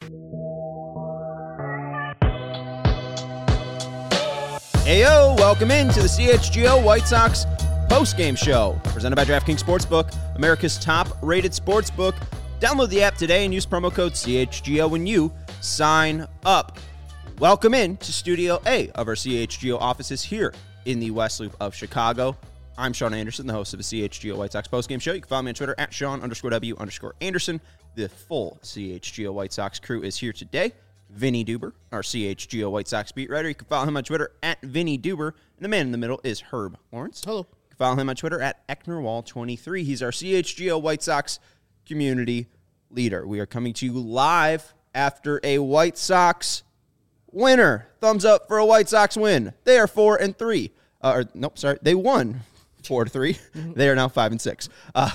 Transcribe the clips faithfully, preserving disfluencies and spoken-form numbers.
Heyo, welcome into the C H G O White Sox postgame show, presented by DraftKings Sportsbook, America's top-rated sportsbook. Download the app today and use promo code C H G O when you sign up. Welcome in to Studio A of our C H G O offices here in the West Loop of Chicago. I'm Sean Anderson, the host of the C H G O White Sox postgame show. You can follow me on Twitter at Sean underscore W underscore Anderson. The full C H G O White Sox crew is here today. Vinny Duber, our C H G O White Sox beat writer. You can follow him on Twitter at Vinny Duber. And the man in the middle is Herb Lawrence. Hello. You can follow him on Twitter at Ecknerwall twenty-three. He's our C H G O White Sox community leader. We are coming to you live after a White Sox winner. Thumbs up for a White Sox win. They are four and three. Uh, or nope, sorry, they won four to three. They are now five and six. Uh,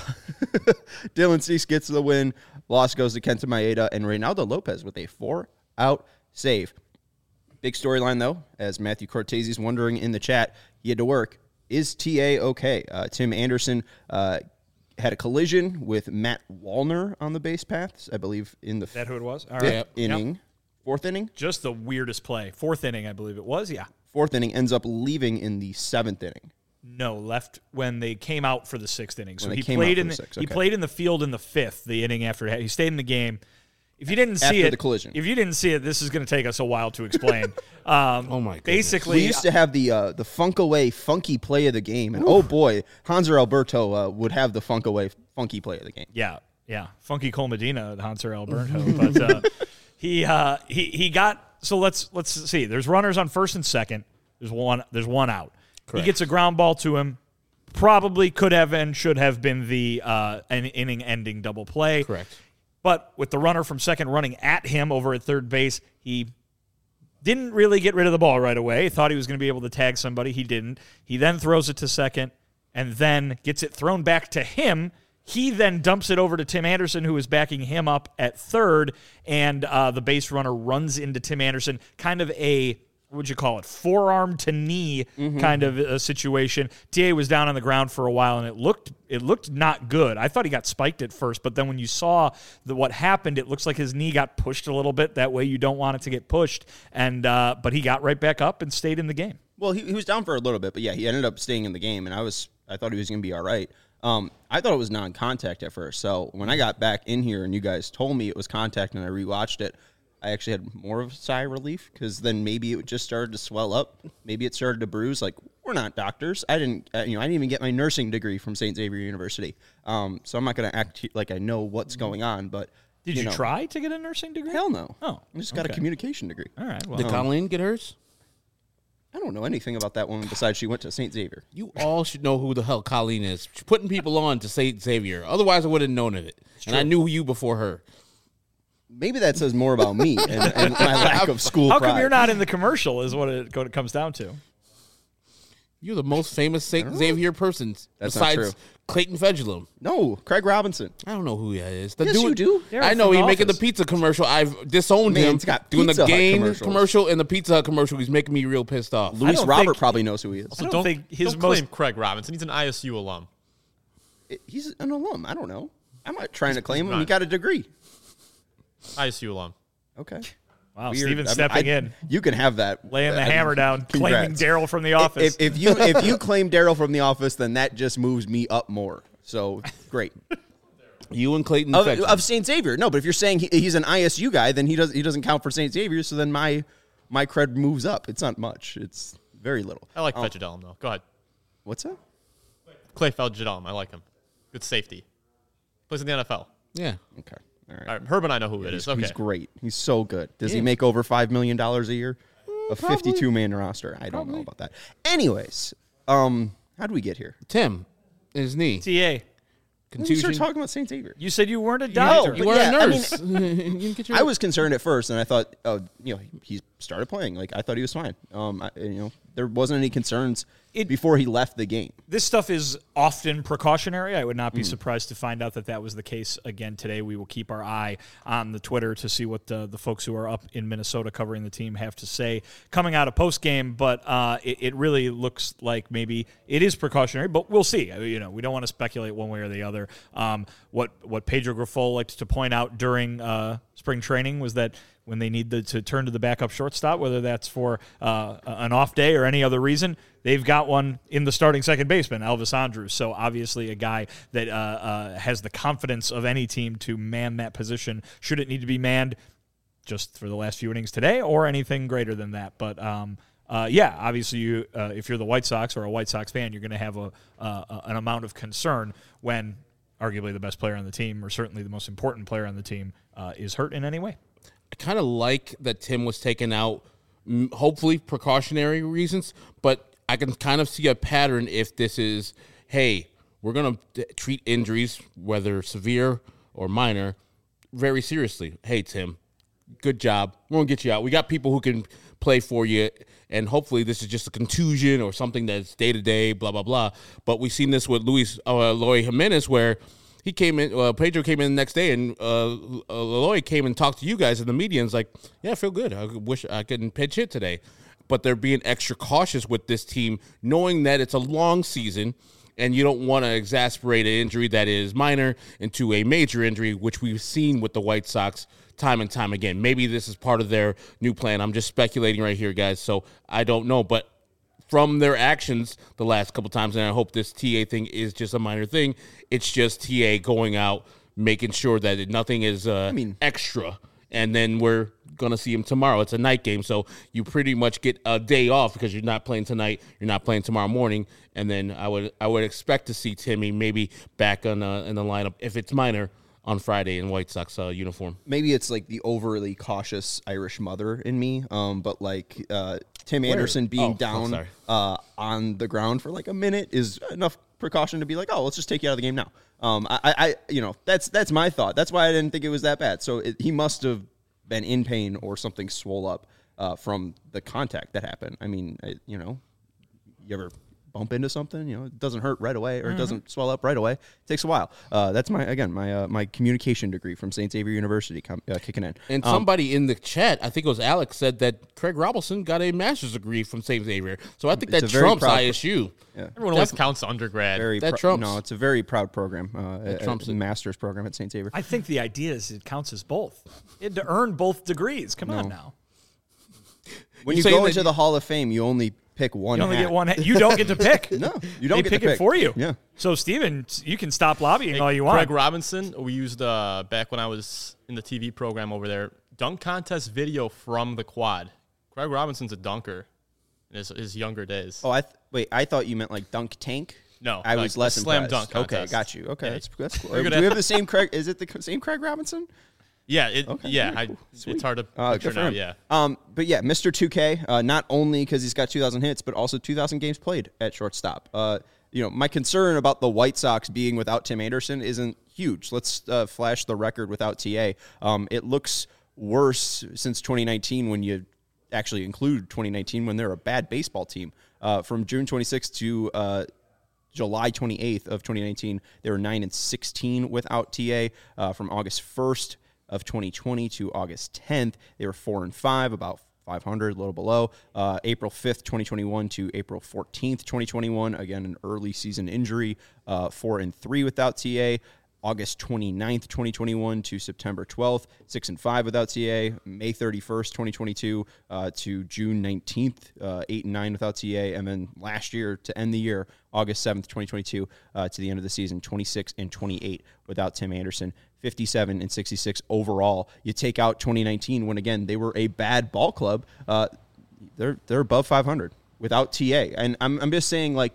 Dylan Cease gets the win. Loss goes to Kenta Maeda and Reynaldo Lopez with a four-out save. Big storyline though, as Matthew Cortese is wondering in the chat, he had to work. Is T A okay? Uh, Tim Anderson uh, had a collision with Matt Wallner on the base paths, I believe, in the that who it was? All fifth right. inning. Yep. Fourth inning? Just the weirdest play. Fourth inning, I believe it was, yeah. Fourth inning, ends up leaving in the seventh inning. No, left when they came out for the sixth inning. So When he they came played out in for the, the sixth, he okay. played in the field in the fifth, the inning after he stayed in the game. If you didn't see After it, the collision. If you didn't see it, this is going to take us a while to explain. Um, Oh, my goodness. Basically, We used to have the uh, the Funk Away funky play of the game, and oh boy, Hanser Alberto uh, would have the Funk Away funky play of the game. Yeah, yeah. Funky Cole Medina at Hanser Alberto. but uh, he uh, he he got so let's let's see. There's runners on first and second. There's one there's one out. Correct. He gets a ground ball to him. Probably could have and should have been the uh, an inning ending double play. Correct. But with the runner from second running at him over at third base, he didn't really get rid of the ball right away. He thought he was going to be able to tag somebody. He didn't. He then throws it to second and then gets it thrown back to him. He then dumps it over to Tim Anderson, who is backing him up at third, and uh, the base runner runs into Tim Anderson, kind of a, what would you call it, forearm to knee Mm-hmm. kind of a situation. T A was down on the ground for a while, and it looked it looked not good. I thought he got spiked at first, but then when you saw the, what happened, it looks like his knee got pushed a little bit. That way you don't want it to get pushed, and uh, but he got right back up and stayed in the game. Well, he, he was down for a little bit, but yeah, he ended up staying in the game, and I was I thought he was going to be all right. Um, I thought it was non-contact at first, so when I got back in here and you guys told me it was contact and I rewatched it, I actually had more of a sigh of relief because then maybe it just started to swell up. Maybe it started to bruise. Like, we're not doctors. I didn't, uh, you know, I didn't even get my nursing degree from Saint Xavier University. Um, so I'm not going to act like I know what's going on. But Did you, know, try to get a nursing degree? Hell no. Oh, I just got a okay. communication degree. All right. Well, Did Colleen get hers? I don't know anything about that woman besides she went to Saint Xavier. You all should know who the hell Colleen is. She's putting people on to Saint Xavier. Otherwise, I would have known of it. And I knew you before her. Maybe that says more about me and, and my lack of school how pride. come you're not in the commercial? Is what it, what it comes down to. You're the most famous Saint Xavier person That's not besides true. Clayton Fedulum. No, Craig Robinson. I don't know who that is. The Yes, dude, you do. They're I know from he's The making the Office. pizza commercial. I've disowned Man, him. he's got doing Pizza the Hut Gain commercials. commercial and the Pizza Hut commercial. He's making me real pissed off. Luis don't Robert think- probably knows who he is. I don't don't think his don't most- claim Craig Robinson. He's an I S U alum. He's an alum. I don't know. I'm not trying to claim him. not. He got a degree. I S U alum. Okay. Wow, Weird. Steven I mean, stepping I- in, You can have that. laying the I- hammer down, claiming Congrats. Daryl from The Office. If, if you if you claim Daryl from The Office, then that just moves me up more. So great. You and Clayton of, Fedulum. of Saint Xavier. No, but if you're saying he, he's an I S U guy, then he doesn't he doesn't count for Saint Xavier. So then my my cred moves up. It's not much. It's very little. I like Oh, Fedulum, though. Go ahead. What's that? Clay Fedulum. I like him. Good safety. Plays in the N F L. yeah. Okay. All right. All right, Herb and I know who it He's, is. Okay. he's great. He's so good. Does he Yeah. make over five million dollars a year? A probably. fifty-two man roster. I don't know about that. Anyways, um, how do we get here? Tim, his knee. T A, We Contusion. started talking about Saint Xavier. you said you weren't a No, doctor. You but were yeah, a I nurse. You didn't get your- I was concerned at first, and I thought, oh, you know, he started playing. Like I thought he was fine. Um, I, you know, there wasn't any concerns It- before he left the game. This stuff is often precautionary. I would not Hmm. be surprised to find out that that was the case again today. We will keep our eye on the Twitter to see what the, the folks who are up in Minnesota covering the team have to say coming out of postgame, but uh, it, it really looks like maybe it is precautionary, but we'll see. You know, we don't want to speculate one way or the other. Um, what what Pedro Grifol liked to point out during uh, spring training was that when they need the, to turn to the backup shortstop, whether that's for uh, an off day or any other reason, they've got one in the starting second baseman, Elvis Andrus. So obviously a guy that uh, uh, has the confidence of any team to man that position should it need to be manned just for the last few innings today or anything greater than that. But um, uh, yeah, obviously you, uh, if you're the White Sox or a White Sox fan, you're going to have a, uh, an amount of concern when arguably the best player on the team, or certainly the most important player on the team, uh, is hurt in any way. I kind of like that Tim was taken out, hopefully precautionary reasons, but I can kind of see a pattern if this is, hey, we're going to treat injuries, whether severe or minor, very seriously. Hey, Tim, good job. We're going to get you out. We got people who can play for you, and hopefully this is just a contusion or something that's day-to-day, blah, blah, blah. But we've seen this with Luis uh, Eloy Jimenez, where he came in, uh, Pedro came in the next day, and uh, Eloy came and talked to you guys in the media and was like, yeah, I feel good. I wish I couldn't pitch hit today. But they're being extra cautious with this team, knowing that it's a long season, and you don't want to exasperate an injury that is minor into a major injury, which we've seen with the White Sox time and time again. Maybe this is part of their new plan. I'm just speculating right here, guys, so I don't know. But from their actions the last couple times, and I hope this T A thing is just a minor thing, it's just T A going out, making sure that nothing is uh, I mean, extra, and then we're going to see him tomorrow. It's a night game, so you pretty much get a day off because you're not playing tonight, you're not playing tomorrow morning, and then I would I would expect to see Timmy maybe back on uh, in the lineup if it's minor on Friday in White Sox uh, uniform. Maybe it's like the overly cautious Irish mother in me, um, but like uh, Tim Where? Anderson being oh, down uh, on the ground for like a minute is enough precaution to be like, oh, let's just take you out of the game now. Um, I, I, you know, that's that's my thought. That's why I didn't think it was that bad. So it, he must have been in pain or something swole up uh, from the contact that happened. I mean, I, you know, you ever bump into something, you know, it doesn't hurt right away or mm-hmm. it doesn't swell up right away. It takes a while. Uh, that's my, again, my uh, my communication degree from Saint Xavier University com- uh, kicking in. And um, somebody in the chat, I think it was Alex, said that Craig Robinson got a master's degree from Saint Xavier. So I think that trumps I S U. Yeah. Everyone else counts undergrad. Very that pr- trumps. No, it's a very proud program. Uh, that a, trumps a it. master's program at Saint Xavier. I think the idea is it counts as both. You had to earn both degrees. Come no. on now. When you you, go that into you, the Hall of Fame, you only pick one You only hat. get one hat. You don't get to pick. No, you don't they get pick to pick it for you. Yeah. So, Steven, you can stop lobbying Hey, all you want. Craig Robinson, we used uh, back when I was in the T V program over there, dunk contest video from the quad. Craig Robinson's a dunker in his, his younger days. Oh, I th- wait. I thought you meant like dunk tank. No, I like was less slam impressed. dunk Okay, contest. got you. Okay, Yeah. that's that's cool. We're Do gonna we have- have the same Craig? Is it the same Craig Robinson? Yeah, it, Okay, yeah, very I, cool. Sweet. it's hard to Uh, picture good for now. him. Yeah, Um, but yeah, Mister two K, uh, not only because he's got two thousand hits, but also two thousand games played at shortstop. Uh, you know, my concern about the White Sox being without Tim Anderson isn't huge. Let's uh, flash the record without T A. Um, it looks worse since twenty nineteen when you actually include twenty nineteen when they're a bad baseball team. Uh, from June twenty-sixth to uh, July twenty-eighth of twenty nineteen, they were nine and sixteen without T A. Uh, from August first of twenty twenty to August tenth, they were four and five, about five hundred, a little below. Uh, April fifth, twenty twenty-one to April fourteenth, twenty twenty-one, again an early season injury, uh, four and three without T A. August twenty-ninth, twenty twenty-one to September twelfth, six and five without T A. May thirty-first, twenty twenty-two uh, to June nineteenth, uh, eight and nine without T A. And then last year to end the year, August seventh, twenty twenty-two uh, to the end of the season, twenty-six and twenty-eight without Tim Anderson, fifty-seven and sixty-six overall. You take out twenty nineteen when, again, they were a bad ball club. Uh, they're they're above five hundred without T A. And I'm I'm just saying, like,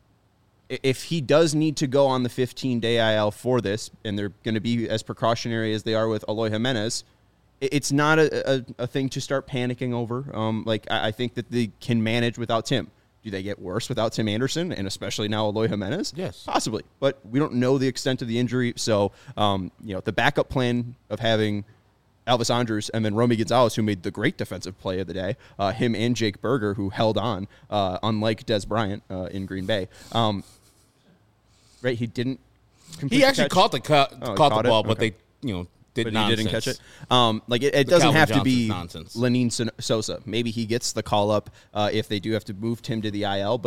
if he does need to go on the fifteen-day I L for this, and they're going to be as precautionary as they are with Eloy Jimenez, it's not a, a, a thing to start panicking over. Um, like, I, I think that they can manage without Tim. Do they get worse without Tim Anderson, and especially now Eloy Jimenez? Yes. Possibly. But we don't know the extent of the injury, so um, you know, the backup plan of having Elvis Andrus and then Romy Gonzalez, who made the great defensive play of the day, uh, him and Jake Berger, who held on, uh, unlike Des Bryant uh, in Green Bay. Um, Right, he didn't. He actually catch. caught the cu- Oh, he caught, caught the it? ball, but Okay. they you know did But nonsense. he didn't catch it. Um, like it, it The doesn't Calvin have to Johnson's be nonsense. Lenin Sosa. Maybe he gets the call up uh, if they do have to move Tim to the I L. But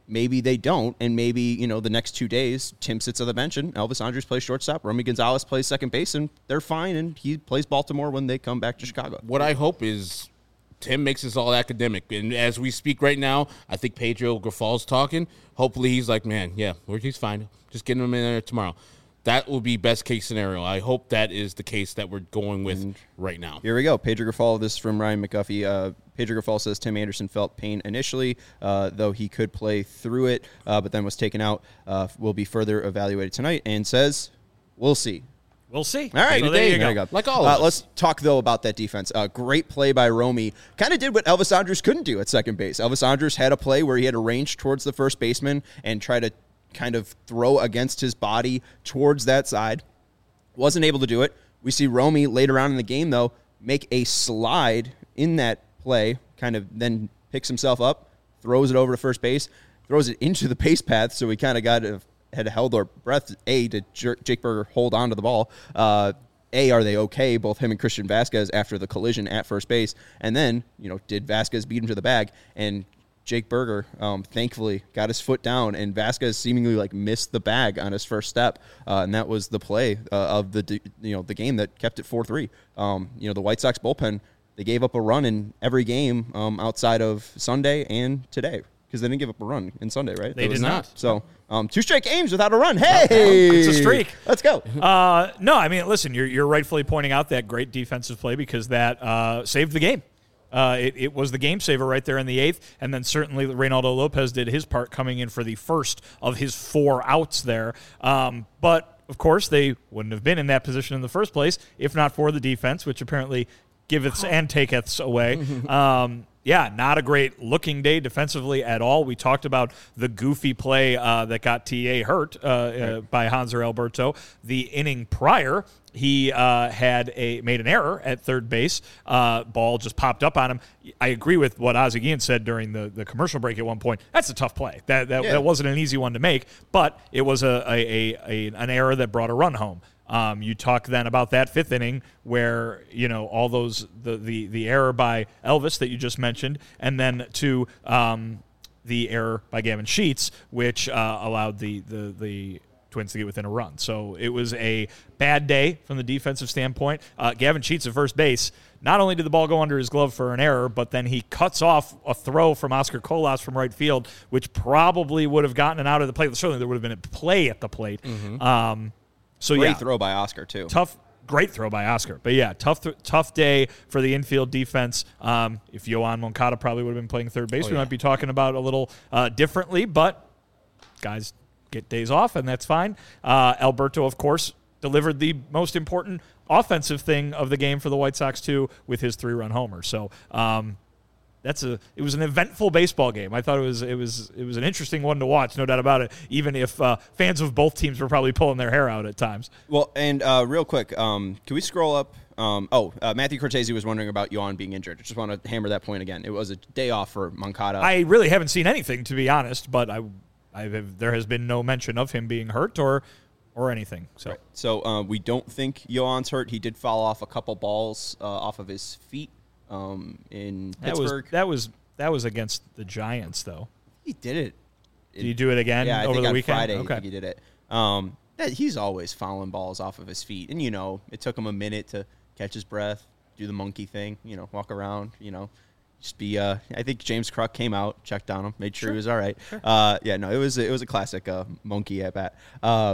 maybe they don't, and maybe, you know, the next two days, Tim sits on the bench and Elvis Andrus plays shortstop, Romy Gonzalez plays second base, and they're fine, and he plays Baltimore when they come back to Chicago. What I hope is Tim makes this all academic, and as we speak right now, I think Pedro Grifal's talking. Hopefully he's like, man, yeah, he's fine. Just getting him in there tomorrow. That will be best case scenario. I hope that is the case that we're going with and right now. Here we go. Pedro Grifal, this is from Ryan McGuffey. Uh, Pedro Grifal says Tim Anderson felt pain initially, uh, though he could play through it, uh, but then was taken out. Uh, will be further evaluated tonight, and says, we'll see. We'll see. All right. So there you There go. you go. Like all of uh, us. Let's talk, though, about that defense. Uh, great play by Romy. Kind of did what Elvis Andrus couldn't do at second base. Elvis Andrus had a play where he had a range towards the first baseman and try to kind of throw against his body towards that side. Wasn't able to do it. We see Romy later on in the game, though, make a slide in that play, kind of then picks himself up, throws it over to first base, throws it into the base path, so we kind of got to, had held our breath, A, to Jake Burger hold on to the ball. Uh, A, are they okay, both him and Christian Vasquez, after the collision at first base? And then, you know, did Vasquez beat him to the bag? And Jake Burger, um, thankfully, got his foot down, and Vasquez seemingly like missed the bag on his first step, uh, and that was the play uh, of the you know the game that kept it four three. Um, you know, the White Sox bullpen, they gave up a run in every game um, outside of Sunday and today, because they didn't give up a run in Sunday, right? They did not. So um, two straight games without a run. Hey, It's a streak. Let's go. Uh, no, I mean, listen, you're you're rightfully pointing out that great defensive play because that uh, saved the game. Uh, it, it was the game saver right there in the eighth, and then certainly Reynaldo Lopez did his part coming in for the first of his four outs there. Um, but, of course, they wouldn't have been in that position in the first place if not for the defense, which apparently giveth and taketh away. Um, yeah, not a great looking day defensively at all. We talked about the goofy play uh, that got T A hurt uh, uh, by Hanser Alberto. The inning prior, he uh, had a made an error at third base. Uh, ball just popped up on him. I agree with what Ozzie Guillen said during the, the commercial break at one point. That's a tough play. That that, Yeah. that wasn't an easy one to make, but it was a, a, a, a an error that brought a run home. Um, you talk then about that fifth inning where, you know, all those, the, the, the error by Elvis that you just mentioned, and then to um, the error by Gavin Sheets, which uh, allowed the, the, the Twins to get within a run. So it was a bad day from the defensive standpoint. Uh, Gavin Sheets at first base, not only did the ball go under his glove for an error, but then he cuts off a throw from Oscar Colas from right field, which probably would have gotten it out of the plate. Certainly there would have been a play at the plate. Mm-hmm. Um, So Great yeah, throw by Oscar, too. tough, great throw by Oscar. But yeah, tough, th- tough day for the infield defense. Um, if Yohan Moncada probably would have been playing third base, Oh, we yeah. might be talking about a little uh, differently. But guys get days off, and that's fine. Uh, Alberto, of course, delivered the most important offensive thing of the game for the White Sox too, with his three-run homer. So. Um, That's a. It was an eventful baseball game. I thought it was. It was. It was an interesting one to watch, no doubt about it. Even if uh, fans of both teams were probably pulling their hair out at times. Well, and uh, real quick, um, can we scroll up? Um, oh, uh, Matthew Cortese was wondering about Yohan being injured. I just want to hammer that point again. It was a day off for Moncada. I really haven't seen anything, to be honest. But I, I have, there has been no mention of him being hurt or, or anything. So Right. So uh, we don't think Yohan's hurt. He did fall off a couple balls uh, off of his feet um, in that was Pittsburgh. that was that was against the Giants, though. He did it. Did you do it again Yeah, I over think the on weekend? Friday I Okay. think he did it. Um, yeah, he's always fouling balls off of his feet, and you know it took him a minute to catch his breath, do the monkey thing, you know, walk around, you know, just be. Uh, I think James Kruk came out, checked on him, made sure, Sure. he was all right. Uh, yeah, no, it was it was a classic uh, monkey at bat. Uh,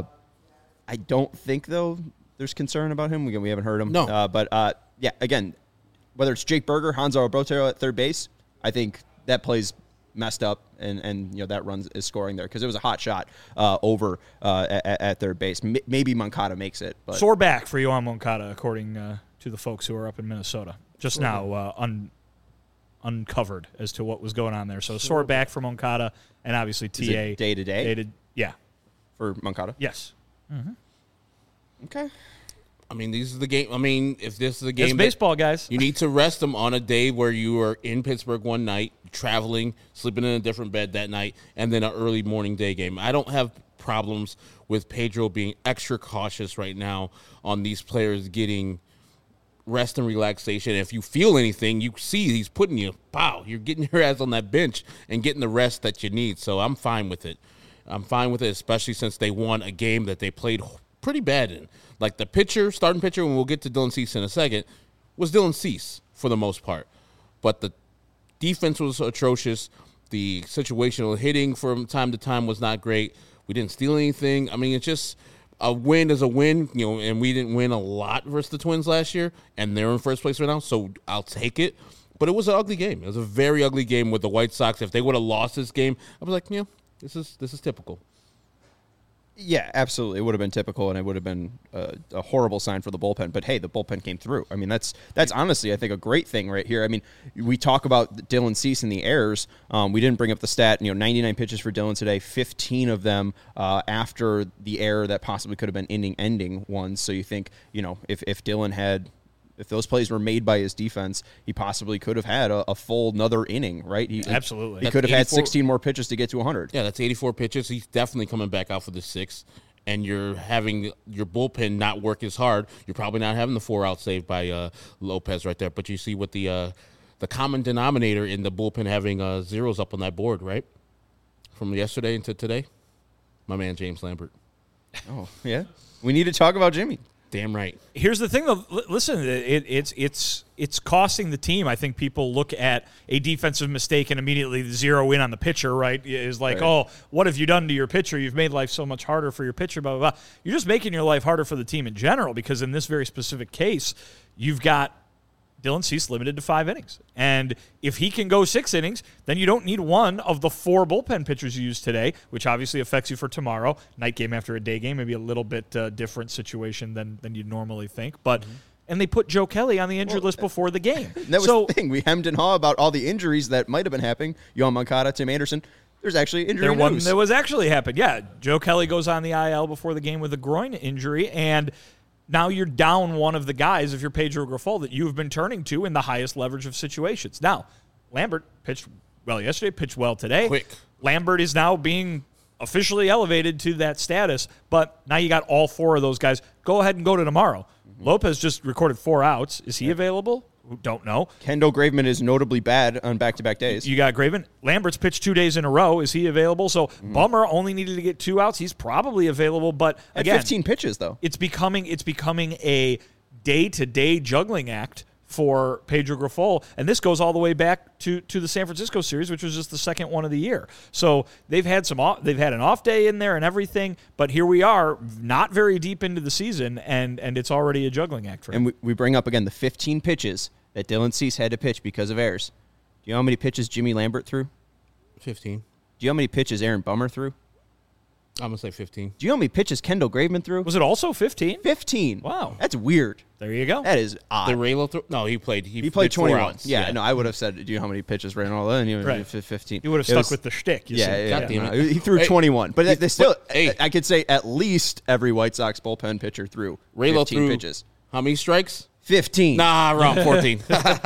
I don't think though there's concern about him. Again, we haven't heard him. No. uh, but uh, yeah, again, whether it's Jake Burger, Hanser Alberto at third base, I think that plays messed up, and, and you know that runs is scoring there because it was a hot shot uh, over uh, at, at third base. M- maybe Moncada makes it, but Sore back for Yohan Moncada, according uh, to the folks who are up in Minnesota. Just now uh, un- uncovered as to what was going on there. So sore back for Moncada, and obviously is T A. it day to day Day to- yeah. for Moncada. Yes. Okay, I mean, these are the game. I mean, if this is the It's game, that baseball, guys. you need to rest them on a day where you are in Pittsburgh one night, traveling, sleeping in a different bed that night, and then an early morning day game. I don't have problems with Pedro being extra cautious right now on these players getting rest and relaxation. If you feel anything, you see he's putting you, pow, you're getting your ass on that bench and getting the rest that you need. So I'm fine with it. I'm fine with it, especially since they won a game that they played pretty bad in. Like the pitcher, starting pitcher, and we'll get to Dylan Cease in a second, was Dylan Cease for the most part. But the defense was atrocious. The situational hitting from time to time was not great. We didn't steal anything. I mean, it's just a win is a win, you know, and we didn't win a lot versus the Twins last year, and they're in first place right now, so I'll take it. But it was an ugly game. It was a very ugly game with the White Sox. If they would have lost this game, I was like, yeah, this is this is typical. Yeah, absolutely. It would have been typical, and it would have been a, a horrible sign for the bullpen. But hey, the bullpen came through. I mean, that's that's honestly, I think, a great thing right here. I mean, we talk about Dylan Cease and the errors. Um, we didn't bring up the stat. You know, ninety-nine pitches for Dylan today, fifteen of them uh, after the error that possibly could have been inning-ending ones. So you think, you know, if if Dylan had. If those plays were made by his defense, he possibly could have had a, a full another inning, right? He, Absolutely. He That's could have had eighty-four sixteen more pitches to get to one hundred. Yeah, that's eighty-four pitches. He's definitely coming back out for the sixth, and you're having your bullpen not work as hard. You're probably not having the four-out save by uh, Lopez right there, but you see what the uh, the common denominator in the bullpen having uh, zeros up on that board, right? From yesterday into today, my man James Lambert. Oh, yeah. We need to talk about Jimmy. Damn right. Here's the thing, though. L- listen, it, it's it's it's costing the team. I think people look at a defensive mistake and immediately zero in on the pitcher. Right? Is like, Right. oh, what have you done to your pitcher? You've made life so much harder for your pitcher. Blah blah blah. You're just making your life harder for the team in general because in this very specific case, you've got Dylan Cease limited to five innings. And if he can go six innings, then you don't need one of the four bullpen pitchers you used today, which obviously affects you for tomorrow. Night game after a day game, maybe a little bit uh, different situation than, than you'd normally think. But mm-hmm. And they put Joe Kelly on the injured Well, list before the game. That was so, the thing. We hemmed and hawed about all the injuries that might have been happening. Yohan Moncada, Tim Anderson. There's actually injury there one news. that was actually happened. Yeah, Joe Kelly goes on the I L before the game with a groin injury, and now you're down one of the guys, if you're Pedro Grifol, that you've been turning to in the highest leverage of situations. Now, Lambert pitched well yesterday, pitched well today. Quick. Lambert is now being officially elevated to that status, but now you got all four of those guys. Go ahead and go to tomorrow. Mm-hmm. Lopez just recorded four outs. Is he yeah. available? Don't know. Kendall Graveman is notably bad on back-to-back days. You got Graveman. Lambert's pitched two days in a row. Is he available? So mm-hmm. Bummer only needed to get two outs. He's probably available, but again, at fifteen pitches though. It's becoming it's becoming a day-to-day juggling act for Pedro Grifol, and this goes all the way back to, to the San Francisco series, which was just the second one of the year. So they've had some off, they've had an off day in there and everything, but here we are, not very deep into the season, and and it's already a juggling act for him. And we, we bring up again the fifteen pitches that Dylan Cease had to pitch because of errors. Do you know how many pitches Jimmy Lambert threw? fifteen. Do you know how many pitches Aaron Bummer threw? I'm going to say fifteen. Do you know how many pitches Kendall Graveman threw? Was it also fifteen? fifteen. Wow. That's weird. There you go. That is odd. Did Raylo throw? No, he played. He, he played did four twenty-one. outs. Yeah, yeah, no, I would have said, do you know how many pitches ran all in? You would right. fifteen. You would have It stuck was, with the shtick. You yeah, said. yeah, God damn no, it. he threw Hey, twenty-one. But he, they still, but, hey. I could say at least every White Sox bullpen pitcher threw Raylo fifteen threw pitches. How many strikes? fifteen. Nah, wrong. fourteen.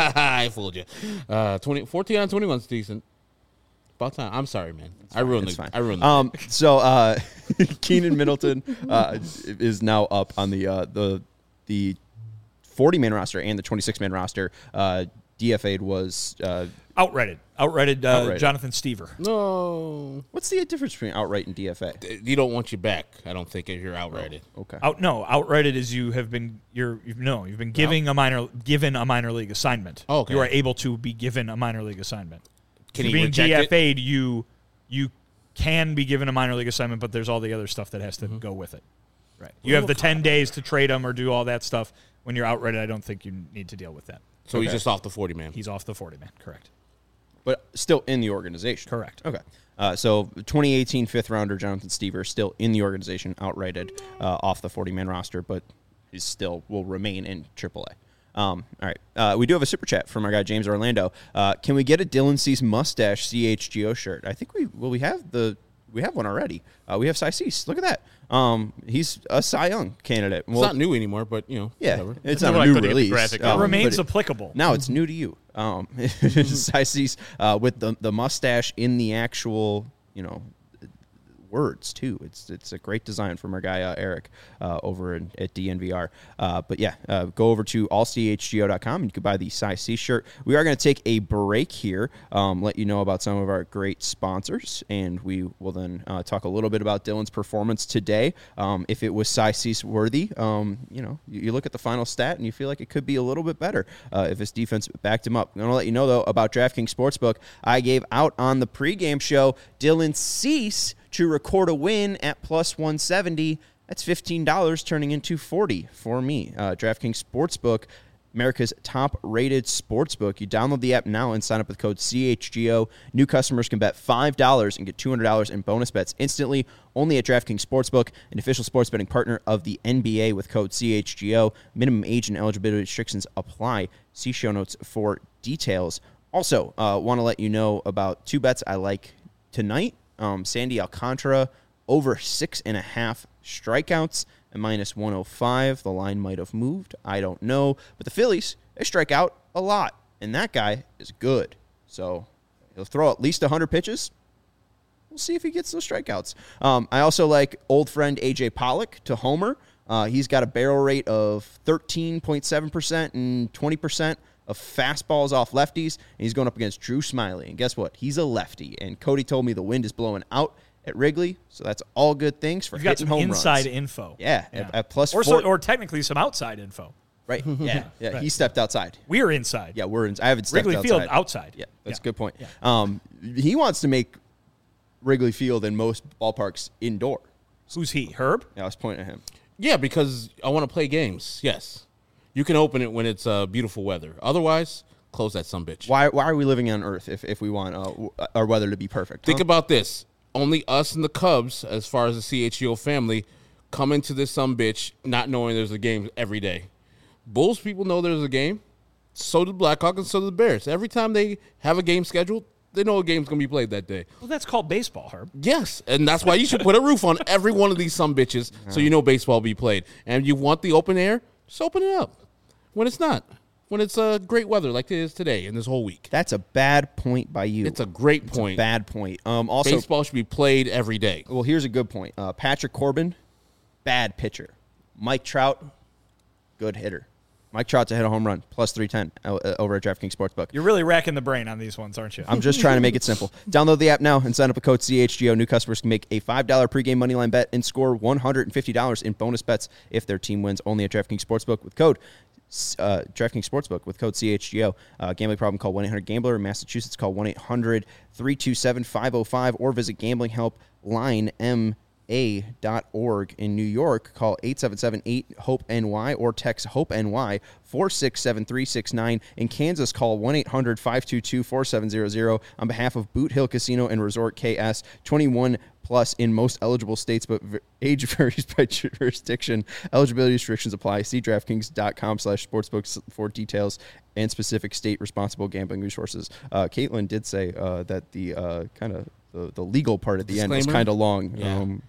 I fooled you. Uh, twenty, fourteen on twenty-one is decent. About time. I'm sorry, man. I ruined It's the. fine. I ruined the. Um, so uh, Keenan Middleton uh, is now up on the uh, the the forty-man roster and the twenty-six-man roster. Uh, D F A'd was uh, outrighted. Outrighted, uh, Outrighted. Jonathan Stever. no. what's the difference between outright and D F A? You don't want you back. I don't think if you're outrighted. Okay. Out no, outrighted is you have been you're you've no you've been giving a minor given a minor league assignment. Oh, okay. You are able to be given a minor league assignment. Can If he you're being reject D F it? A'd, you you can be given a minor league assignment, but there's all the other stuff that has to Mm-hmm. go with it. Right. You have the ten days to trade him or do all that stuff. When you're outrighted, I don't think you need to deal with that. So he's just off the forty man. He's off the forty man. Correct. But still in the organization. Correct. Okay. Uh, so twenty eighteen fifth rounder Jonathan Stever still in the organization, outrighted uh, off the forty-man roster, but he still will remain in triple A. Um, all right. Uh, we do have a super chat from our guy James Orlando. Uh, can we get a Dylan Cease mustache C H G O shirt? I think we well we have the we have one already. Uh, we have Cy Cease. Look at that. Um, he's a Cy Young candidate. It's not new anymore, but you know. Yeah, whatever. it's I not know a I new couldn't get the release. graphic It um, remains but it- applicable. Now it's new to you. Um, Cy Cease uh, with the the mustache in the actual, you know, words too. It's it's a great design from our guy uh, Eric uh, over in, at D N V R. Uh, but yeah, uh, go over to all c h g o dot com and you can buy the size C shirt. We are going to take a break here, um, let you know about some of our great sponsors, and we will then uh, talk a little bit about Dylan's performance today. Um, if it was size C worthy, um, you know, you, you look at the final stat and you feel like it could be a little bit better uh, if his defense backed him up. I'm going to let you know though about DraftKings Sportsbook. I gave out on the pregame show Dylan Cease to record a win at plus one seventy. That's fifteen dollars turning into forty dollars for me. Uh, DraftKings Sportsbook, America's top-rated sportsbook. You download the app now and sign up with code C H G O. New customers can bet five dollars and get two hundred dollars in bonus bets instantly, only at DraftKings Sportsbook, an official sports betting partner of the N B A with code C H G O. Minimum age and eligibility restrictions apply. See show notes for details. Also, uh, want to let you know about two bets I like tonight. Um, Sandy Alcantara over six and a half strikeouts at minus one oh five. The line might have moved. I don't know. But the Phillies, they strike out a lot. And that guy is good. So he'll throw at least one hundred pitches. We'll see if he gets those strikeouts. Um, I also like old friend A J Pollock to homer. Uh, he's got a barrel rate of thirteen point seven percent and twenty percent of fastballs off lefties, and he's going up against Drew Smyly. And guess what? He's a lefty. And Cody told me the wind is blowing out at Wrigley, so that's all good things for You've got hitting some home inside runs. info. Yeah, Yeah. At, at plus Or, four. so, or technically some outside info. Right, yeah, yeah. Right. He stepped outside. We're inside. Yeah, we're in. I haven't stepped Wrigley outside. Field outside. Yeah, that's Yeah. a good point. Yeah. Um, he wants to make Wrigley Field and most ballparks indoor. Who's he? Herb? Yeah, I was pointing at him. Yeah, because I want to play games. Yes. You can open it when it's uh, beautiful weather. Otherwise, close that sumbitch. Why Why are we living on Earth if, if we want uh, w- our weather to be perfect? Think huh? about this. Only us and the Cubs, as far as the C H G O family, come into this sumbitch not knowing there's a game every day. Bulls people know there's a game. So do the Blackhawks and so do the Bears. Every time they have a game scheduled, they know a game's going to be played that day. Well, that's called baseball, Herb. Yes, and that's why you should put a roof on every one of these sumbitches so you know baseball will be played. And you want the open air, just open it up. When it's not. When it's uh, great weather like it is today and this whole week. That's a bad point by you. It's a great It's a point. bad point. Um, also, Baseball should be played every day. well, here's a good point. Uh, Patrick Corbin, bad pitcher. Mike Trout, good hitter. Mike Trout to hit a home run, plus three ten uh, over at DraftKings Sportsbook. You're really racking the brain on these ones, aren't you? I'm just trying to make it simple. Download the app now and sign up with code C H G O. New customers can make a five dollars pregame moneyline bet and score one hundred fifty dollars in bonus bets if their team wins, only at DraftKings Sportsbook with code uh, DraftKings Sportsbook with code C H G O. Uh, gambling problem, call one eight hundred gambler. In Massachusetts, call one eight hundred three two seven five oh five or visit Gambling Help Line M A dot org. In New York, call eight seven seven eight hope N Y or text HOPE-NY four six seven three six nine. In Kansas, call one eight hundred five two two four seven zero zero. On behalf of Boot Hill Casino and Resort K S, twenty-one plus in most eligible states, but v- age varies by jurisdiction. Eligibility restrictions apply. See DraftKings.com slash sportsbooks for details and specific state responsible gambling resources. Uh, Caitlin did say uh, that the uh, kind of the, the legal part at the end was Disclaimer? kind of long. Yeah. Um,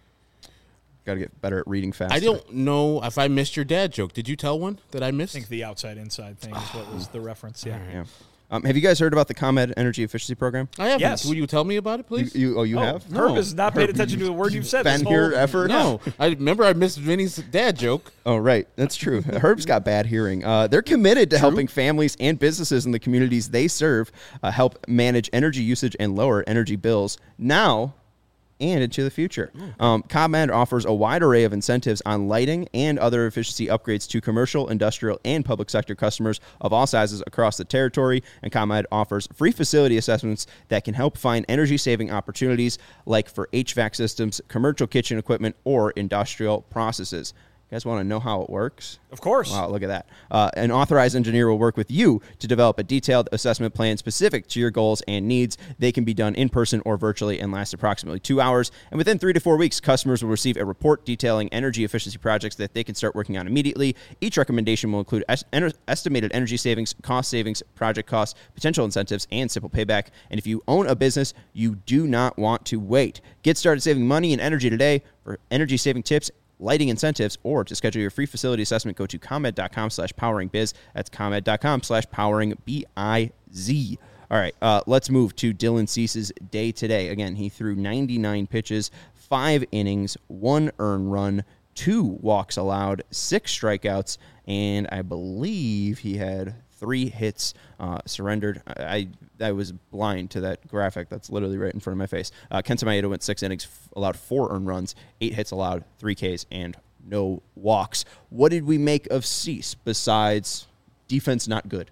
Got to get better at reading fast. I don't know if I missed your dad joke. Did you tell one that I missed? I think the outside-inside thing is what was the reference. Yeah. Yeah. Um, have you guys heard about the ComEd Energy Efficiency Program? I haven't. Yes. Will you tell me about it, You, please? you, oh, you Oh, have? Herb No. has not paid Herb, attention to a word you've said. Been this here whole- ever? No. I remember I missed Vinny's dad joke. Oh, right. That's true. Herb's got bad hearing. Uh, they're committed to helping families and businesses in the communities they serve uh, help manage energy usage and lower energy bills now and into the future. Um, ComEd offers a wide array of incentives on lighting and other efficiency upgrades to commercial, industrial, and public sector customers of all sizes across the territory. And ComEd offers free facility assessments that can help find energy-saving opportunities like for H V A C systems, commercial kitchen equipment, or industrial processes. You guys want to know how it works? Of course. Wow, look at that. Uh, an authorized engineer will work with you to develop a detailed assessment plan specific to your goals and needs. They can be done in person or virtually and last approximately two hours. And within three to four weeks, customers will receive a report detailing energy efficiency projects that they can start working on immediately. Each recommendation will include es- en- estimated energy savings, cost savings, project costs, potential incentives, and simple payback. And if you own a business, you do not want to wait. Get started saving money and energy today. For energy saving tips, lighting incentives, or to schedule your free facility assessment, go to ComEd.com slash powering biz. That's ComEd.com slash powering B I Z. All right, uh, let's move to Dylan Cease's day today. Again, he threw ninety-nine pitches, five innings, one earned run, two walks allowed, six strikeouts, and I believe he had three hits uh, surrendered. I, I was blind to that graphic that's literally right in front of my face. Uh, Kenta Maeda went six innings, f- allowed four earned runs, eight hits allowed, three Ks, and no walks. What did we make of Cease besides defense not good?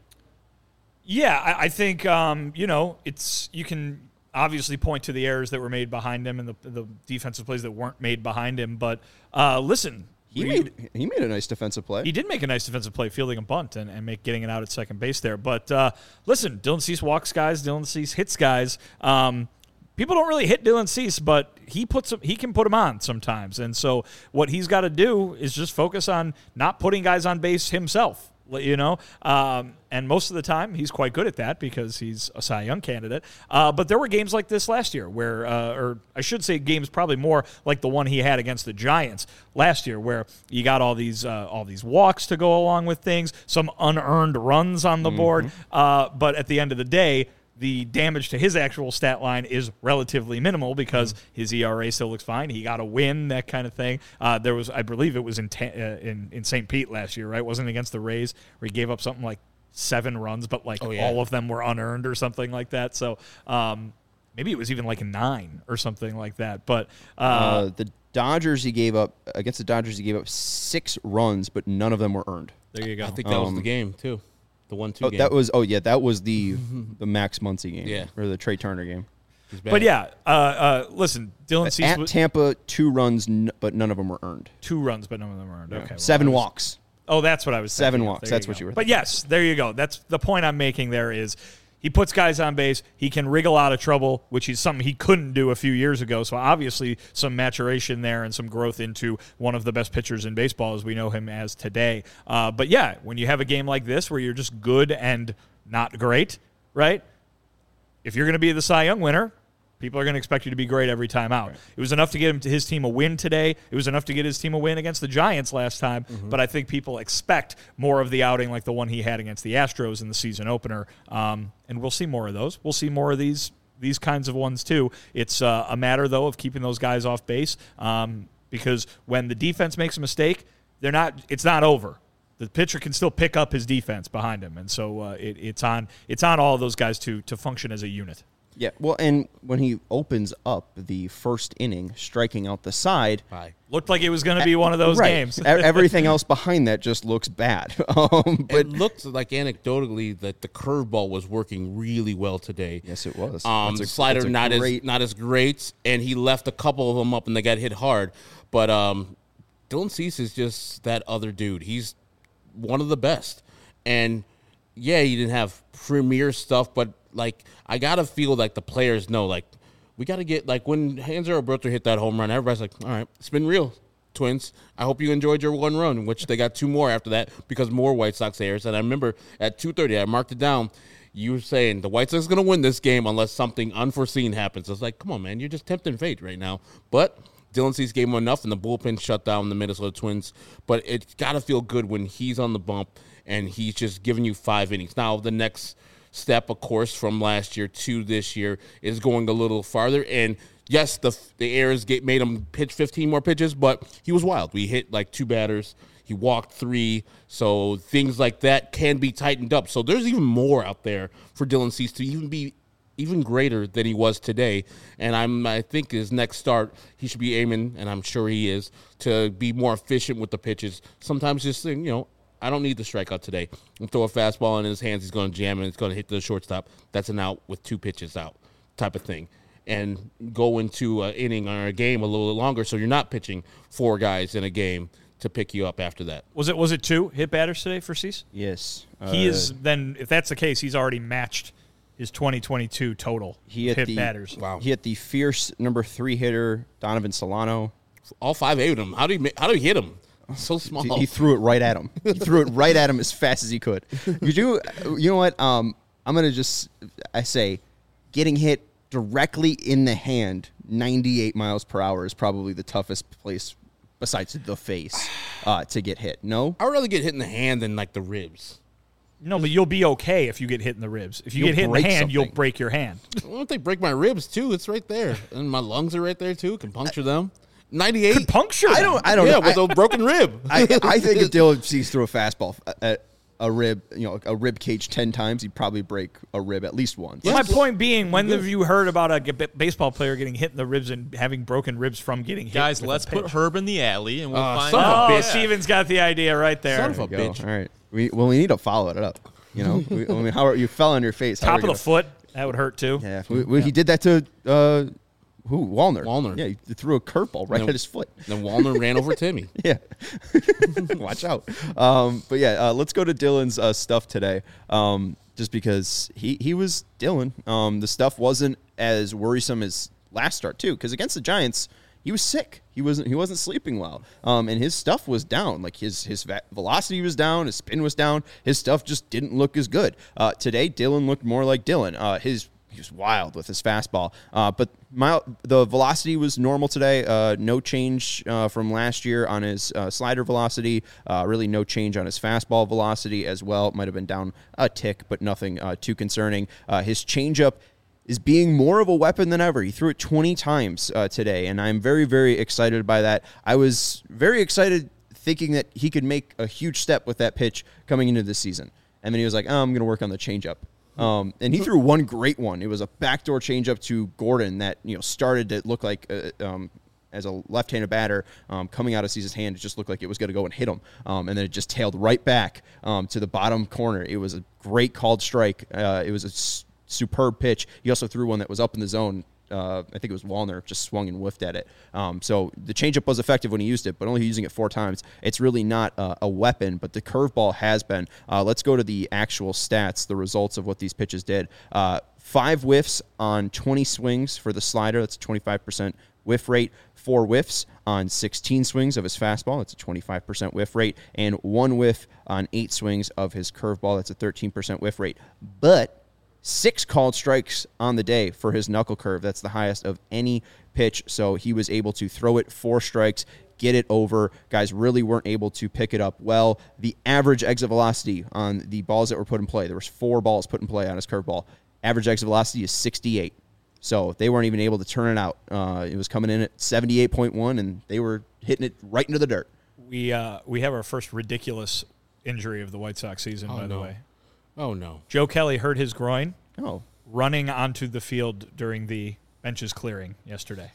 Yeah, I, I think, um, you know, it's you can obviously point to the errors that were made behind him and the, the defensive plays that weren't made behind him. But uh, listen, He we, made he made a nice defensive play. He did make a nice defensive play, fielding a bunt and, and make getting it out at second base there. But uh, listen, Dylan Cease walks guys, Dylan Cease hits guys. Um, people don't really hit Dylan Cease, but he puts he can put them on sometimes. And so what he's got to do is just focus on not putting guys on base himself. You know, um, and most of the time he's quite good at that because he's a Cy Young candidate. Uh, but there were games like this last year where, uh, or I should say games probably more like the one he had against the Giants last year, where you got all these uh, all these walks to go along with things, some unearned runs on the mm-hmm. board. Uh, but at the end of the day, the damage to his actual stat line is relatively minimal because his E R A still looks fine. He got a win, that kind of thing. Uh, there was, I believe, it was in ta- uh, in in Saint Pete last year, right? Wasn't it against the Rays where he gave up something like seven runs, but like oh, yeah. all of them were unearned or something like that. So um, maybe it was even like a nine or something like that. But uh, uh, the Dodgers, he gave up against the Dodgers, he gave up six runs, but none of them were earned. There you go. I think that um, was the game too. The one two oh, game. That was oh yeah, that was the the Max Muncy game. Yeah. Or the Trey Turner game. But yeah, uh, uh, listen, Dylan Cease at was, Tampa, two runs, n- but none of them were earned. Two runs, but none of them were earned. Yeah. Okay, well, seven was, walks. Oh, that's what I was saying. Seven walks. There That's you what go. you were. But thinking. yes, there you go. That's the point I'm making. There is. He puts guys on base. He can wriggle out of trouble, which is something he couldn't do a few years ago. So obviously some maturation there and some growth into one of the best pitchers in baseball as we know him as today. Uh, but, yeah, when you have a game like this where you're just good and not great, right, if you're going to be the Cy Young winner, people are going to expect you to be great every time out. Right. It was enough to get him to his team a win today. It was enough to get his team a win against the Giants last time. Mm-hmm. But I think people expect more of the outing like the one he had against the Astros in the season opener. Um, and we'll see more of those. We'll see more of these these kinds of ones too. It's uh, a matter, though, of keeping those guys off base um, because when the defense makes a mistake, they're not. it's not over. The pitcher can still pick up his defense behind him. And so uh, it, it's on it's on all of those guys to to function as a unit. Yeah, well, and when he opens up the first inning, striking out the side, Bye. Looked like it was going to be one of those right. games. Everything else behind that just looks bad. Um, but it looked like anecdotally that the curveball was working really well today. Yes, it was. Um, a, slider not great... as not as great, and he left a couple of them up, and they got hit hard. But um, Dylan Cease is just that other dude. He's one of the best, and yeah, he didn't have premier stuff, but like I gotta feel like the players know, like we gotta get like when Hanser Alberto hit that home run, everybody's like, all right, it's been real, Twins. I hope you enjoyed your one run, which they got two more after that because more White Sox errors. And I remember at two thirty, I marked it down. You were saying the White Sox are gonna win this game unless something unforeseen happens. I was like, come on, man, you're just tempting fate right now. But Dylan Cease gave him enough, and the bullpen shut down the Minnesota Twins. But it's gotta feel good when he's on the bump and he's just giving you five innings. Now the next step, of course, from last year to this year is going a little farther. And yes, the the errors get, made him pitch fifteen more pitches, but he was wild. We hit like two batters. He walked three. So things like that can be tightened up. So there's even more out there for Dylan Cease to even be even greater than he was today. And I'm I think his next start, he should be aiming, and I'm sure he is, to be more efficient with the pitches. Sometimes just, you know, I don't need the strikeout today. I'll throw a fastball in his hands. He's going to jam and it's going to hit the shortstop. That's an out with two pitches out type of thing. And go into an inning or a game a little longer so you're not pitching four guys in a game to pick you up after that. Was it was it two hit batters today for Cease? Yes. He uh, is then, if that's the case, he's already matched his twenty twenty-two total he hit, hit the, batters. Wow. He hit the fierce number three hitter, Donovan Solano. All five ate him. How do you how do you hit him? So small. He, he threw it right at him. He threw it right at him as fast as he could. You do, you know what? Um, I'm gonna just I say, getting hit directly in the hand, ninety-eight miles per hour is probably the toughest place besides the face uh, to get hit. No, I would rather get hit in the hand than like the ribs. No, but you'll be okay if you get hit in the ribs. If you You'll get hit in the break hand, you'll something. break your hand. Well, if they break my ribs too, it's right there, and my lungs are right there too. Can puncture them. ninety-eight. Could puncture. I don't. I don't Yeah, know. with I, a broken rib. I, I think if Dylan sees through a fastball at a rib, you know, a rib cage ten times, he'd probably break a rib at least once. My point being, when have you heard about a g- baseball player getting hit in the ribs and having broken ribs from getting hit? Guys, with a let's put pitch? Herb in the alley, and we'll Uh, find son of a out. Oh, bitch. Steven's got the idea right there. Son of a There you bitch. go. All right. We well, we need to follow it up. You know, we, I mean, how are you fell on your face? How Top are of we the gonna- foot. That would hurt too. Yeah, we, we, he did that to uh, who? Wallner. Wallner. Yeah, he threw a curveball right No. at his foot. Then Wallner ran over Timmy. Yeah. Watch out. Um, but yeah, uh, let's go to Dylan's uh, stuff today. Um, just because he, he was Dylan. Um, the stuff wasn't as worrisome as last start too. Because against the Giants, he was sick. He wasn't he wasn't sleeping well. Um, and his stuff was down. Like his his va- velocity was down. His spin was down. His stuff just didn't look as good. Uh, today, Dylan looked more like Dylan. Uh, his He was wild with his fastball. Uh, but my, the velocity was normal today. Uh, no change uh, from last year on his uh, slider velocity. Uh, really no change on his fastball velocity as well. It might have been down a tick, but nothing uh, too concerning. Uh, his changeup is being more of a weapon than ever. He threw it twenty times uh, today, and I'm very, very excited by that. I was very excited thinking that he could make a huge step with that pitch coming into this season. And then he was like, oh, I'm going to work on the changeup. Um, and he threw one great one. It was a backdoor changeup to Gordon that, you know, started to look like uh, um, as a left-handed batter um, coming out of Cease's hand. It just looked like it was going to go and hit him. Um, and then it just tailed right back um, to the bottom corner. It was a great called strike. Uh, it was a s- superb pitch. He also threw one that was up in the zone. Uh, I think it was Wallner just swung and whiffed at it. Um, so the changeup was effective when he used it, but only using it four times. It's really not uh, a weapon, but the curveball has been. Uh, let's go to the actual stats, the results of what these pitches did. Uh, five whiffs on twenty swings for the slider. That's a twenty-five percent whiff rate. Four whiffs on sixteen swings of his fastball. That's a twenty-five percent whiff rate. And one whiff on eight swings of his curveball. That's a thirteen percent whiff rate. But six called strikes on the day for his knuckle curve. That's the highest of any pitch. So he was able to throw it four strikes, get it over. Guys really weren't able to pick it up well. The average exit velocity on the balls that were put in play, there was four balls put in play on his curveball. Average exit velocity is sixty-eight. So they weren't even able to turn it out. Uh, it was coming in at seventy-eight point one, and they were hitting it right into the dirt. We uh, we have our first ridiculous injury of the White Sox season, Oh, by the no. way. Oh, no. Joe Kelly hurt his groin Oh, running onto the field during the benches clearing yesterday.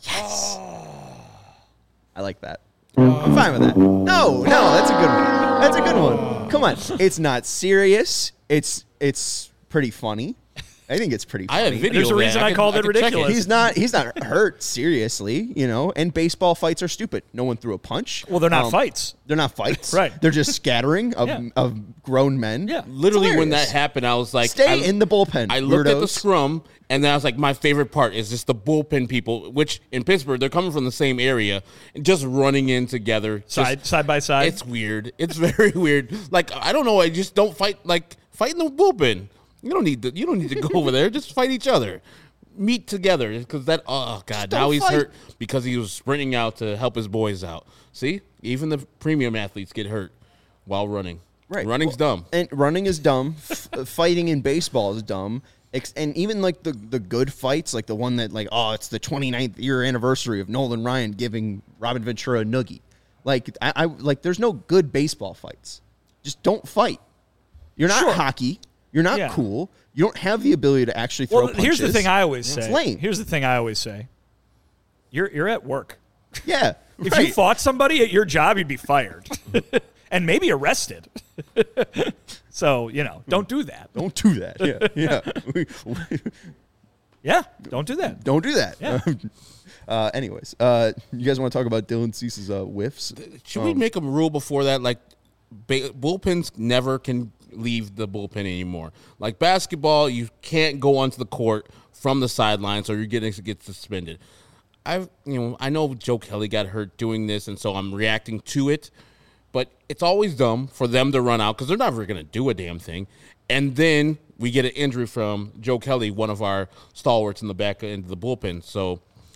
I like that. I'm fine with that. No, no, that's a good one. That's a good one. Come on. It's not serious. It's it's pretty funny. I think it's pretty I funny. have video. There's a of that. reason I could- called it could check ridiculous. He's not he's not hurt seriously, you know, and baseball fights are stupid. No one threw a punch. Well, they're not Um, fights. They're not fights. Right. They're just scattering of, Yeah. of grown men. Yeah. Literally, It's when that hilarious. happened, I was like, Stay I, in the bullpen. I looked at the weirdos. scrum, and then I was like, my favorite part is just the bullpen people, which in Pittsburgh, they're coming from the same area, and just running in together. Just- Side side by side. It's weird. It's very weird. Like, I don't know. I just don't fight, like, fight in the bullpen. You don't need to, you don't need to go over there. Just fight each other. Meet together. Because that, oh, God. don't Now he's fight. hurt because he was sprinting out to help his boys out. See? Even the premium athletes get hurt while running. Right. Running's Well, dumb. And running is dumb. F- fighting in baseball is dumb. Ex- And even like the, the good fights, like the one that like, oh, it's the twenty-ninth year anniversary of Nolan Ryan giving Robin Ventura a noogie. Like I, I like there's no good baseball fights. Just don't fight. You're not Sure. hockey. You're not Yeah. cool. You don't have the ability to actually throw well, punches. here's the thing I always It's say. lame. Here's the thing I always say. You're you're at work. Yeah. If right. you fought somebody at your job, you'd be fired and maybe arrested. So, you know, don't do that. Don't do that. Yeah. Yeah. Yeah, don't do that. Don't do that. Yeah. uh, anyways, uh, you guys want to talk about Dylan Cease's uh, whiffs? Should we make a rule before that? Like, ba- bullpens never can leave the bullpen anymore. Like basketball, you can't go onto the court from the sidelines, or you're getting to get suspended. I've, you know, I know Joe Kelly got hurt doing this, and so I'm reacting to it. But it's always dumb for them to run out because they're never going to do a damn thing. And then we get an injury from Joe Kelly, one of our stalwarts in the back end of the bullpen. So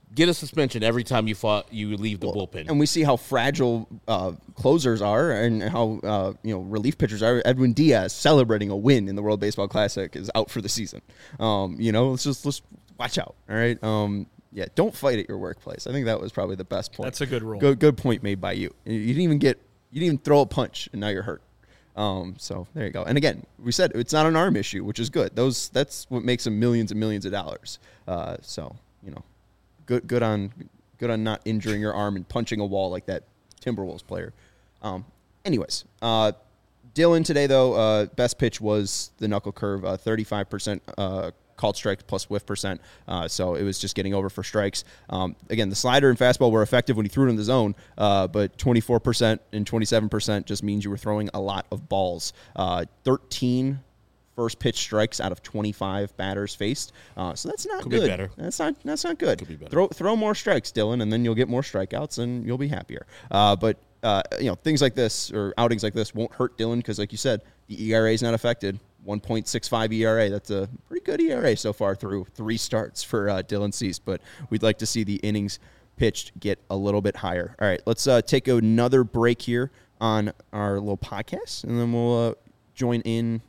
get a suspension every time you fought, you leave the well, bullpen. And we see how fragile uh, closers are and how uh, you know relief pitchers are. Edwin Diaz celebrating a win in the World Baseball Classic is out for the season. Um, you know, let's just let's watch out. All right. Um, yeah, don't fight at your workplace. I think that was probably the best point. That's a good rule. Good, good point made by you. You didn't even get you didn't even throw a punch, and now you're hurt. Um, so there you go. And again, we said it's not an arm issue, which is good. Those that's what makes them millions and millions of dollars. Uh, so you know. Good, good on, good on not injuring your arm and punching a wall like that Timberwolves player. Um, anyways, uh, Dylan today though, uh, best pitch was the knuckle curve, uh, thirty-five percent uh, called strikes plus whiff percent. Uh, so it was just getting over for strikes. Um, again, the slider and fastball were effective when he threw it in the zone, uh, but twenty-four percent and twenty-seven percent just means you were throwing a lot of balls. Uh, thirteen first pitch strikes out of twenty-five batters faced. Uh, so that's not Could good. Be better. That's not that's not good. Could be better. Throw throw more strikes, Dylan, and then you'll get more strikeouts and you'll be happier. Uh, but uh, you know, things like this or outings like this won't hurt Dylan because, like you said, the E R A is not affected. one point six five E R A. That's a pretty good E R A so far through three starts for uh, Dylan Cease. But we'd like to see the innings pitched get a little bit higher. All right, let's uh, take another break here on our little podcast, and then we'll uh, join in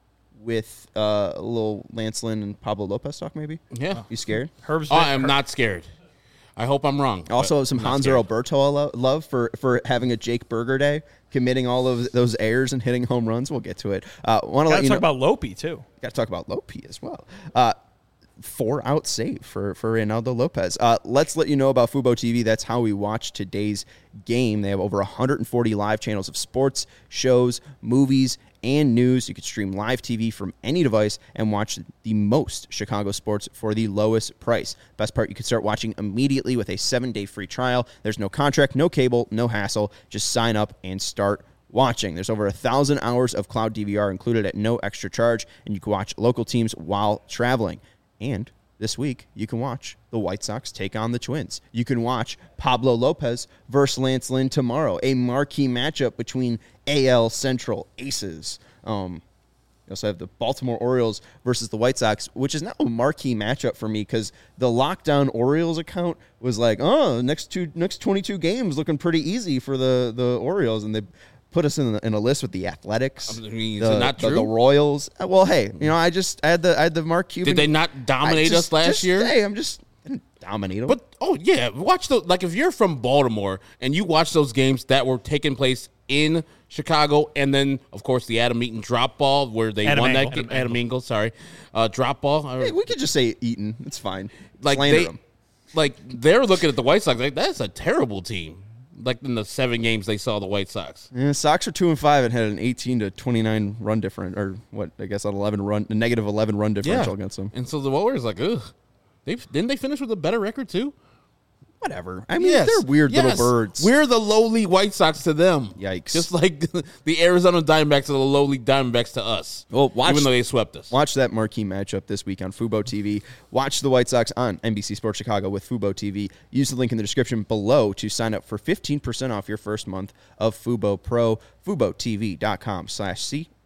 with uh, a little Lance Lynn and Pablo Lopez talk, maybe? Yeah. You scared? Herb's Oh, I'm not scared. I hope I'm wrong. Also, some Hanser Alberto lo- love for, for having a Jake Berger day, committing all of those errors and hitting home runs. We'll get to it. Uh, Want to let Gotta you talk know, about Lopi, too. Got to talk about Lopi as well. Uh, four out save for, for Reynaldo Lopez. Uh, let's let you know about Fubo T V. That's how we watch today's game. They have over one hundred forty live channels of sports, shows, movies, and news. You can stream live T V from any device and watch the most Chicago sports for the lowest price. Best part, you can start watching immediately with a seven-day free trial. There's no contract, no cable, no hassle. Just sign up and start watching. There's over a thousand hours of cloud D V R included at no extra charge, and you can watch local teams while traveling. And this week, you can watch the White Sox take on the Twins. You can watch Pablo Lopez versus Lance Lynn tomorrow, a marquee matchup between A L Central aces. Um, you also have the Baltimore Orioles versus the White Sox, which is now a marquee matchup for me because the Lockdown Orioles account was like, oh, next two, next twenty-two games looking pretty easy for the, the Orioles, and they put us in, the, in a list with the Athletics, I mean, the, is it not the, true? the Royals. Uh, Well, hey, you know, I just I had the I had the Mark Cuban. Did they not dominate I just- us last just- year? Hey, I'm just I didn't dominate them. But oh yeah, watch those. Like if you're from Baltimore and you watch those games that were taking place in Chicago, and then of course the Adam Eaton drop ball where they Adam won Engel. that game. Adam Adam Engel, sorry, uh, drop ball. hey, we could just say Eaton. It's fine. like Slander they, them. like they're looking at the White Sox like that's a terrible team. Like in the seven games they saw the White Sox. Yeah, Sox are two and five and had an eighteen to twenty-nine run difference, or what? I guess an eleven run, a negative eleven run differential against them. And so the Warriors like, ugh, they didn't they finish with a better record too? Whatever. I mean, they're weird Yes. little birds. We're the lowly White Sox to them. Yikes. Just like the Arizona Diamondbacks are the lowly Diamondbacks to us. Well, watch- even though they swept us. Watch that marquee matchup this week on Fubo T V. Watch the White Sox on N B C Sports Chicago with Fubo T V. Use the link in the description below to sign up for fifteen percent off your first month of Fubo Pro. FuboTV.com slash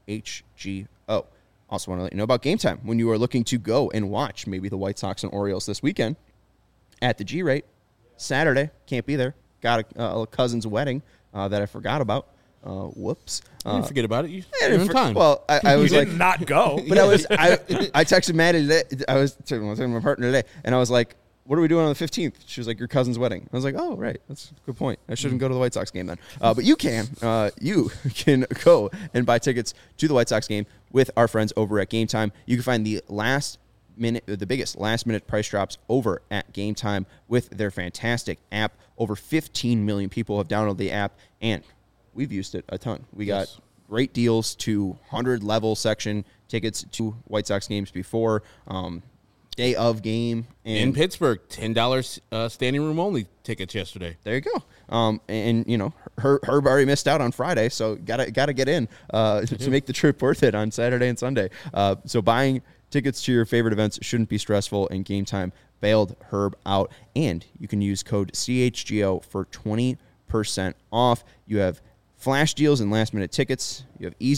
CHGO. Also want to let you know about Game Time. When you are looking to go and watch maybe the White Sox and Orioles this weekend at the G-Rate, Saturday, can't be there. Got a, a cousin's wedding uh, that I forgot about. Uh, whoops. You Uh, didn't forget about it. You, I you're didn't in for- time. Well, I, I You was did like, not go. but I was I, I texted Maddie today. I was talking to my partner today, and I was like, "What are we doing on the fifteenth?" She was like, "Your cousin's wedding." I was like, "Oh, right, that's a good point. I shouldn't go to the White Sox game then." Uh, but you can, uh, you can go and buy tickets to the White Sox game with our friends over at Game Time. You can find the last minute, the biggest last minute price drops over at Game Time with their fantastic app. Over fifteen million people have downloaded the app, and we've used it a ton. We got Yes. great deals to one hundred level section tickets to White Sox games before um, day of game. And in Pittsburgh, ten dollars uh, standing room only tickets yesterday. there you go. Um, and, you know, Her, Herb already missed out on Friday, so gotta gotta get in uh, to make the trip worth it on Saturday and Sunday. Uh, so buying tickets to your favorite events shouldn't be stressful, and Game Time bailed Herb out. And you can use code C H G O for twenty percent off. You have flash deals and last minute tickets. You have easy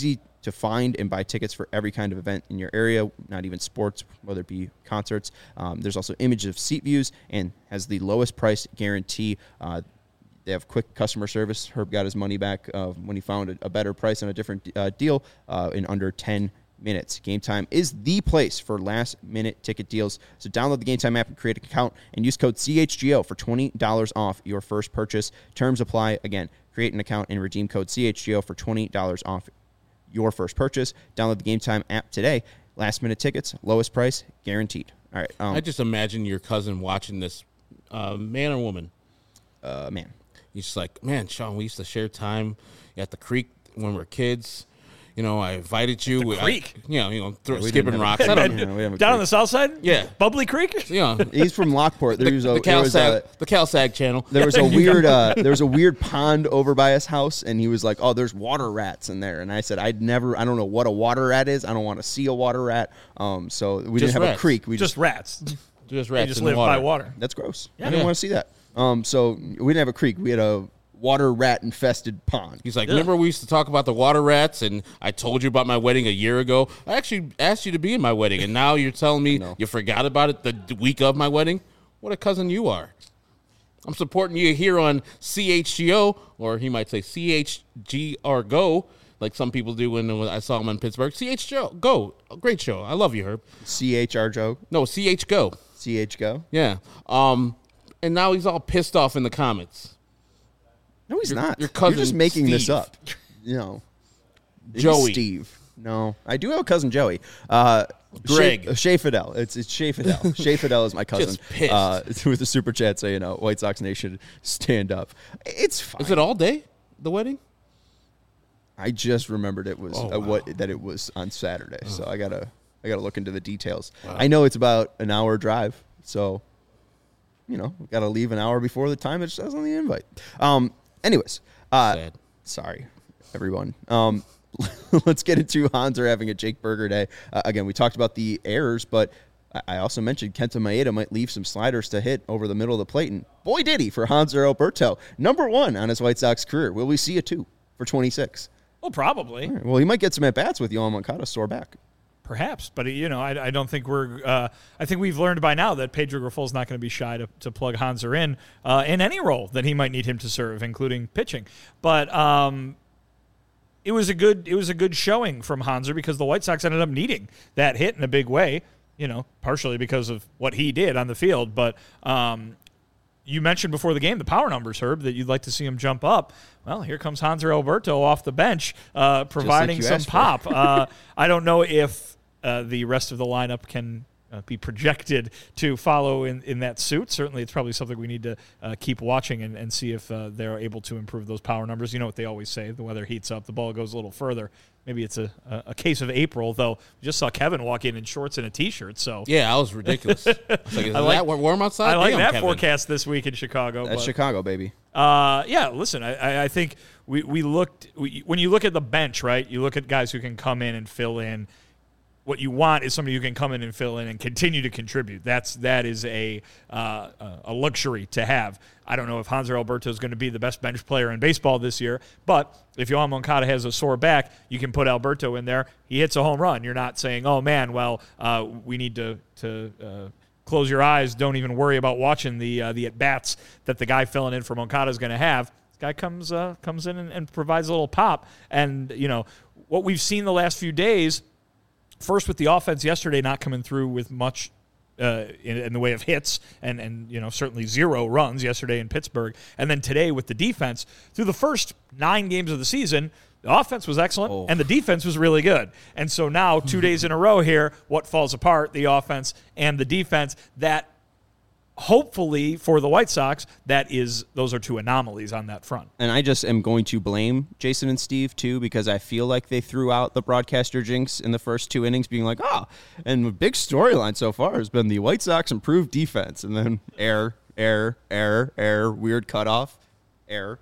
to find and buy tickets for every kind of event in your area, not even sports, whether it be concerts. Um, there's also images of seat views and has the lowest price guarantee. Uh, they have quick customer service. Herb got his money back uh, when he found a, a better price on a different uh, deal uh, in under ten minutes. Game Time is the place for last-minute ticket deals. So download the Game Time app and create an account and use code C H G O for twenty dollars off your first purchase. Terms apply. Again, create an account and redeem code C H G O for twenty dollars off your first purchase. Download the Game Time app today. Last-minute tickets, lowest price, guaranteed. All right. Um, I just imagine your cousin watching this, uh, man or woman. uh, man. He's just like, man, Sean, we used to share time at the creek when we were kids. You know, I invited you. the I- creek? you know, you know, throw, Yeah, we skipping didn't have a rocks. I creek. don't know. Yeah, we have a Down on creek. the south side? Yeah. Bubbly Creek? You know, He's from Lockport. There the, was a, the, there was CalSag, a the CalSag channel. there was a weird uh, there was a weird pond over by his house, and he was like, "Oh, there's water rats in there." And I said, "I'd never. I don't know what a water rat is. I don't want to see a water rat." Um, so we Just didn't have rats. a creek. We Just just, rats. Just They rats just in live the water. by water. that's gross. I Yeah. didn't want to see that. Um, so we didn't have a creek. We had a water rat infested pond. He's like, remember we used to talk about the water rats, and I told you about my wedding a year ago. I actually asked you to be in my wedding, and now you're telling me No. you forgot about it the d- week of my wedding? What a cousin you are. I'm supporting you here on C H G O, or he might say C H G R Go, like some people do when I saw him in Pittsburgh. C H G O Go. Great show. I love you, Herb. C H R Joe. No, C H Go. C H go. Yeah. Um, and now he's all pissed off in the comments. No, he's Your- not. your You're cousin, just making this Steve. up. You know, He's Joey. Steve. No, I do have a cousin Joey. Uh, Greg. Shea, Shea Fidel. It's it's Shea Fidel. Shea Fidel is my cousin. Just pissed. Uh, with the super chat saying, "You know, White Sox Nation, stand up." It's fine. Is it all day, the wedding? I just remembered it was Oh, uh, what that it was on Saturday, so I gotta I gotta look into the details. I know it's about an hour drive, so you know, gotta leave an hour before the time it says on the invite. Um, anyways, uh, Sad. sorry, everyone. Um, let's get into Hanser having a Jake Berger day. Uh, again, we talked about the errors, but I- I also mentioned Kenta Maeda might leave some sliders to hit over the middle of the plate, and boy did he for Hanser Alberto, number one on his White Sox career. Will we see a two for twenty-six? Well, probably. All right, well, he might get some at bats with Yohan Moncada sore back. Perhaps, but you know, I, I don't think we're. Uh, I think we've learned by now that Pedro Grifol is not going to be shy to, to plug Hanser in uh, in any role that he might need him to serve, including pitching. But um, it was a good it was a good showing from Hanser because the White Sox ended up needing that hit in a big way. You know, partially because of what he did on the field, but. Um, You mentioned before the game the power numbers, Herb, that you'd like to see him jump up. Well, here comes Hanser Alberto off the bench, uh, providing you some asked for. pop. uh, I don't know if uh, the rest of the lineup can uh, be projected to follow in, in that suit. Certainly, it's probably something we need to uh, keep watching and, and see if uh, they're able to improve those power numbers. You know what they always say, the weather heats up, the ball goes a little further. Maybe it's a, a, a case of April, though. We just saw Kevin walk in in shorts and a T-shirt, so Yeah, that was ridiculous. It's like, is I like- that warm outside? I like Damn, that Kevin. forecast this week in Chicago. That's but- Chicago, baby. Uh, yeah, listen, I, I- I think we, we looked, we, when you look at the bench, right, you look at guys who can come in and fill in. What you want is somebody who can come in and fill in and continue to contribute. That's, that is a, uh, a luxury to have. I don't know if Hanser Alberto is going to be the best bench player in baseball this year, but if Yohan Moncada has a sore back, you can put Alberto in there. He hits a home run. You're not saying, oh, man, well, uh, we need to, to uh, close your eyes. Don't even worry about watching the uh, the at-bats that the guy filling in for Moncada is going to have. This guy comes uh, comes in and, and provides a little pop. And, you know, what we've seen the last few days, first with the offense yesterday not coming through with much uh, in, in the way of hits and, and, you know, certainly zero runs yesterday in Pittsburgh. And then today with the defense, through the first nine games of the season, the offense was excellent, Oh. and the defense was really good. And so now, two days in a row here, what falls apart? The offense and the defense. That hopefully for the White Sox, that is those are two anomalies on that front. And I just am going to blame Jason and Steve, too, because I feel like they threw out the broadcaster jinx in the first two innings, being like, oh, and the big storyline so far has been the White Sox improved defense. And then error, error, error, error, weird cutoff, error.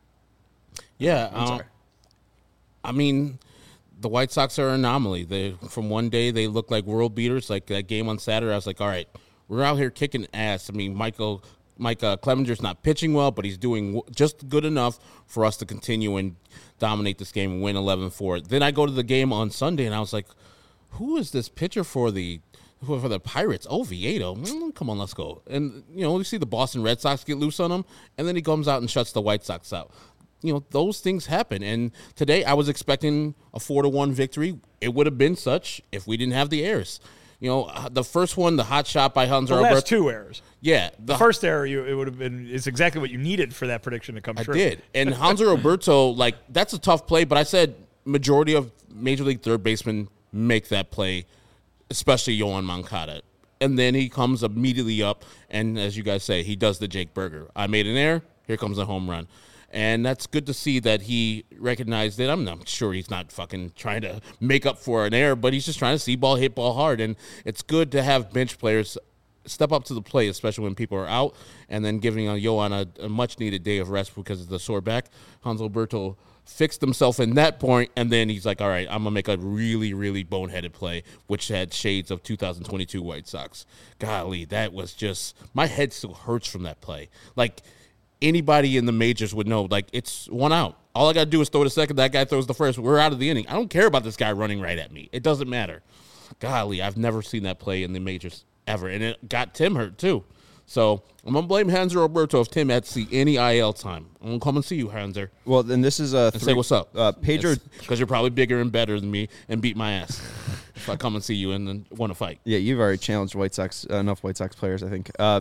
Yeah, I'm um, sorry. I mean, the White Sox are an anomaly. They from one day they look like world beaters. Like that game on Saturday, I was like, all right, we're out here kicking ass. I mean, Michael Mike uh, Clemenger's not pitching well, but he's doing w- just good enough for us to continue and dominate this game and win eleven four. Then I go to the game on Sunday, and I was like, who is this pitcher for the for the Pirates? Oviedo. Mm, come on, let's go. And, you know, you see the Boston Red Sox get loose on him, and then he comes out and shuts the White Sox out. You know, those things happen. And today I was expecting a four to one victory. It would have been such if we didn't have the errors. You know, the first one, the hot shot by Hanser The last Alberto. two errors. Yeah. The, the first error, you, it would have been, is exactly what you needed for that prediction to come I true. I did. And Hanser Alberto, like, that's a tough play, but I said majority of Major League third basemen make that play, especially Yoan Moncada. And then he comes immediately up, and as you guys say, he does the Jake Burger. I made an error. Here comes a home run. And that's good to see that he recognized it. I'm not sure he's not fucking trying to make up for an error, but he's just trying to see ball, hit ball hard. And it's good to have bench players step up to the plate, especially when people are out, and then giving a Yoan a, a much-needed day of rest because of the sore back. Hanser Alberto fixed himself in that point, and then he's like, all right, I'm going to make a really, really boneheaded play, which had shades of two thousand twenty-two White Sox. Golly, that was just – my head still hurts from that play. Like – anybody in the majors would know, like, it's one out. All I got to do is throw the second. That guy throws the first. We're out of the inning. I don't care about this guy running right at me. It doesn't matter. Golly, I've never seen that play in the majors ever. And it got Tim hurt, too. So I'm going to blame Hanser Alberto if Tim had to see any I L time. I'm going to come and see you, Hanser. Well, then this is a and say what's up. Uh, Pedro. Because you're probably bigger and better than me and beat my ass if I come and see you and then want to fight. Yeah, you've already challenged White Sox, uh, enough White Sox players, I think. Uh,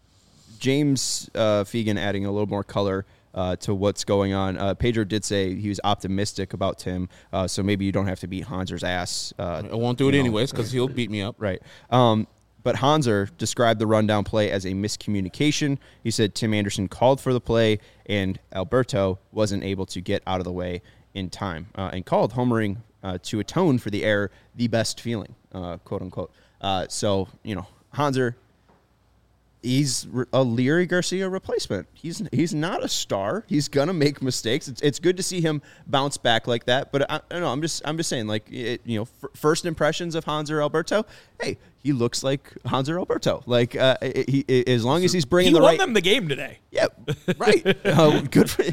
James uh, Fegan adding a little more color uh, to what's going on. Uh, Pedro did say he was optimistic about Tim, uh, so maybe you don't have to beat Hanser's ass. Uh, I won't do it know. anyways because he'll beat me up. Right. Um, but Hanser described the rundown play as a miscommunication. He said Tim Anderson called for the play, and Alberto wasn't able to get out of the way in time, uh, and called homering uh, to atone for the error the best feeling, uh, quote unquote. Uh, so, you know, Hanser, he's a Leary Garcia replacement. He's he's not a star. He's gonna make mistakes. It's it's good to see him bounce back like that. But I, I don't know. I'm just I'm just saying, like, it, you know, f- first impressions of Hanser Alberto. Hey, he looks like Hanser Alberto. Like, uh, he, he as long as he's bringing he the won right. them the game today. Yeah, right. uh, good for.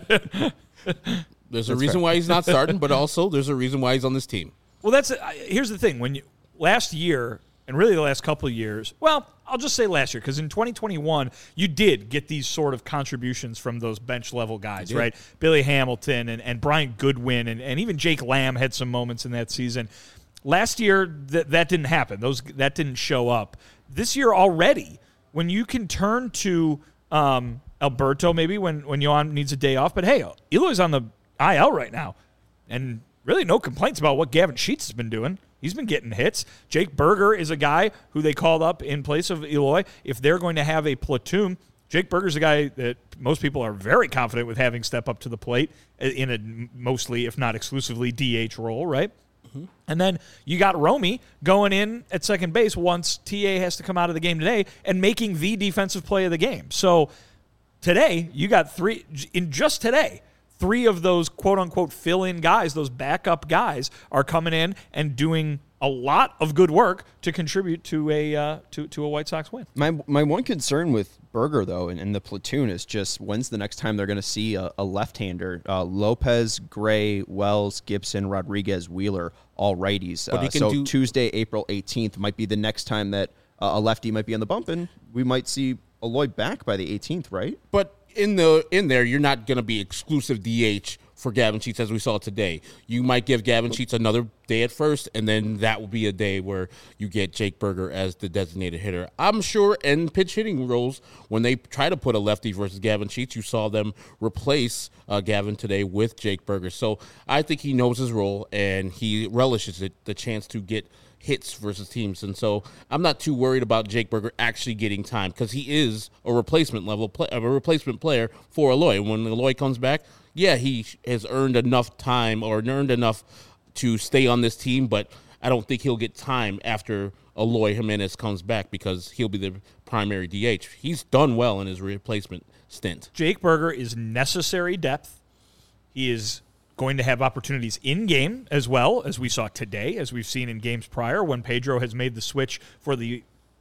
There's a That's reason fair. why he's not starting, but also there's a reason why he's on this team. Well, that's uh, here's the thing. When you last year, and really the last couple of years, well, I'll just say last year, because in twenty twenty-one, you did get these sort of contributions from those bench-level guys, right? Billy Hamilton and, and Brian Goodwin, and, and even Jake Lamb had some moments in that season. Last year, th- that didn't happen. Those That didn't show up. This year already, when you can turn to um, Alberto maybe when, when Yoan needs a day off, but hey, Eloy's on the I L right now, and really no complaints about what Gavin Sheets has been doing. He's been getting hits. Jake Burger is a guy who they called up in place of Eloy. If they're going to have a platoon, Jake Burger's a guy that most people are very confident with having step up to the plate in a mostly, if not exclusively, D H role, right? Mm-hmm. And then you got Romy going in at second base once T A has to come out of the game today and making the defensive play of the game. So today, you got three, in just today, three of those quote-unquote fill-in guys, those backup guys, are coming in and doing a lot of good work to contribute to a uh, to, to a White Sox win. My my one concern with Burger, though, and, and the platoon is just when's the next time they're going to see a, a left-hander? Uh, Lopez, Gray, Wells, Gibson, Rodriguez, Wheeler, all righties. But he Uh, can so do- Tuesday, April eighteenth might be the next time that uh, a lefty might be on the bump, and we might see Eloy back by the eighteenth, right? But in the in there, you're not going to be exclusive D H for Gavin Sheets as we saw today. You might give Gavin Sheets another day at first, and then that will be a day where you get Jake Burger as the designated hitter. I'm sure in pitch hitting roles, when they try to put a lefty versus Gavin Sheets, you saw them replace uh, Gavin today with Jake Burger. So I think he knows his role, and he relishes it, the chance to get hits versus teams. And so I'm not too worried about Jake Burger actually getting time because he is a replacement level play, a replacement player for Eloy. When Eloy comes back, yeah, he has earned enough time or earned enough to stay on this team, but I don't think he'll get time after Eloy Jimenez comes back because he'll be the primary D H. He's done well in his replacement stint. Jake Burger is necessary depth. He is going to have opportunities in-game as well, as we saw today, as we've seen in games prior when Pedro has made the switch for the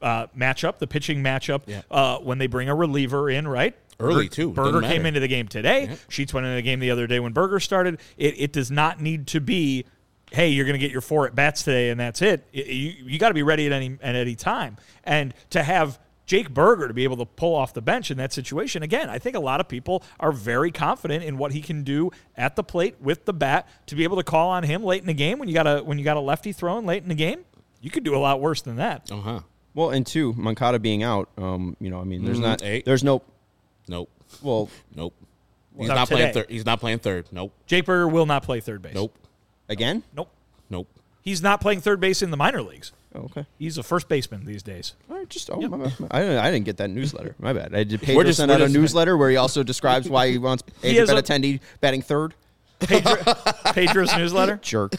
uh, matchup, the pitching matchup, Yeah. uh, when they bring a reliever in, right? Early, Berger- too. Berger Doesn't came matter. into the game today. Yeah. Sheets went into the game the other day when Berger started. It, it does not need to be, hey, you're going to get your four at bats today and that's it. It- you you got to be ready at any at any time. And to have Jake Berger to be able to pull off the bench in that situation, again, I think a lot of people are very confident in what he can do at the plate with the bat. To be able to call on him late in the game when you got a when you got a lefty throwing late in the game, you could do a lot worse than that. Uh huh. Well, and two, Moncada being out, um, you know, I mean, there's Mhm. not, Eight. there's no, Nope. well, Nope. He's Not not playing today. third. He's not playing third. Nope. Jake Berger will not play third base. Nope. again? Nope. Nope. He's not playing third base in the minor leagues. Oh, okay. He's a first baseman these days. All right, just, oh, my, my, I, didn't, I didn't get that newsletter. My bad. I did We're Pedro just- send we're out a just- newsletter where he also describes why he wants Andrew has a- Benintendi batting third. Pedro, Pedro's newsletter. Jerk.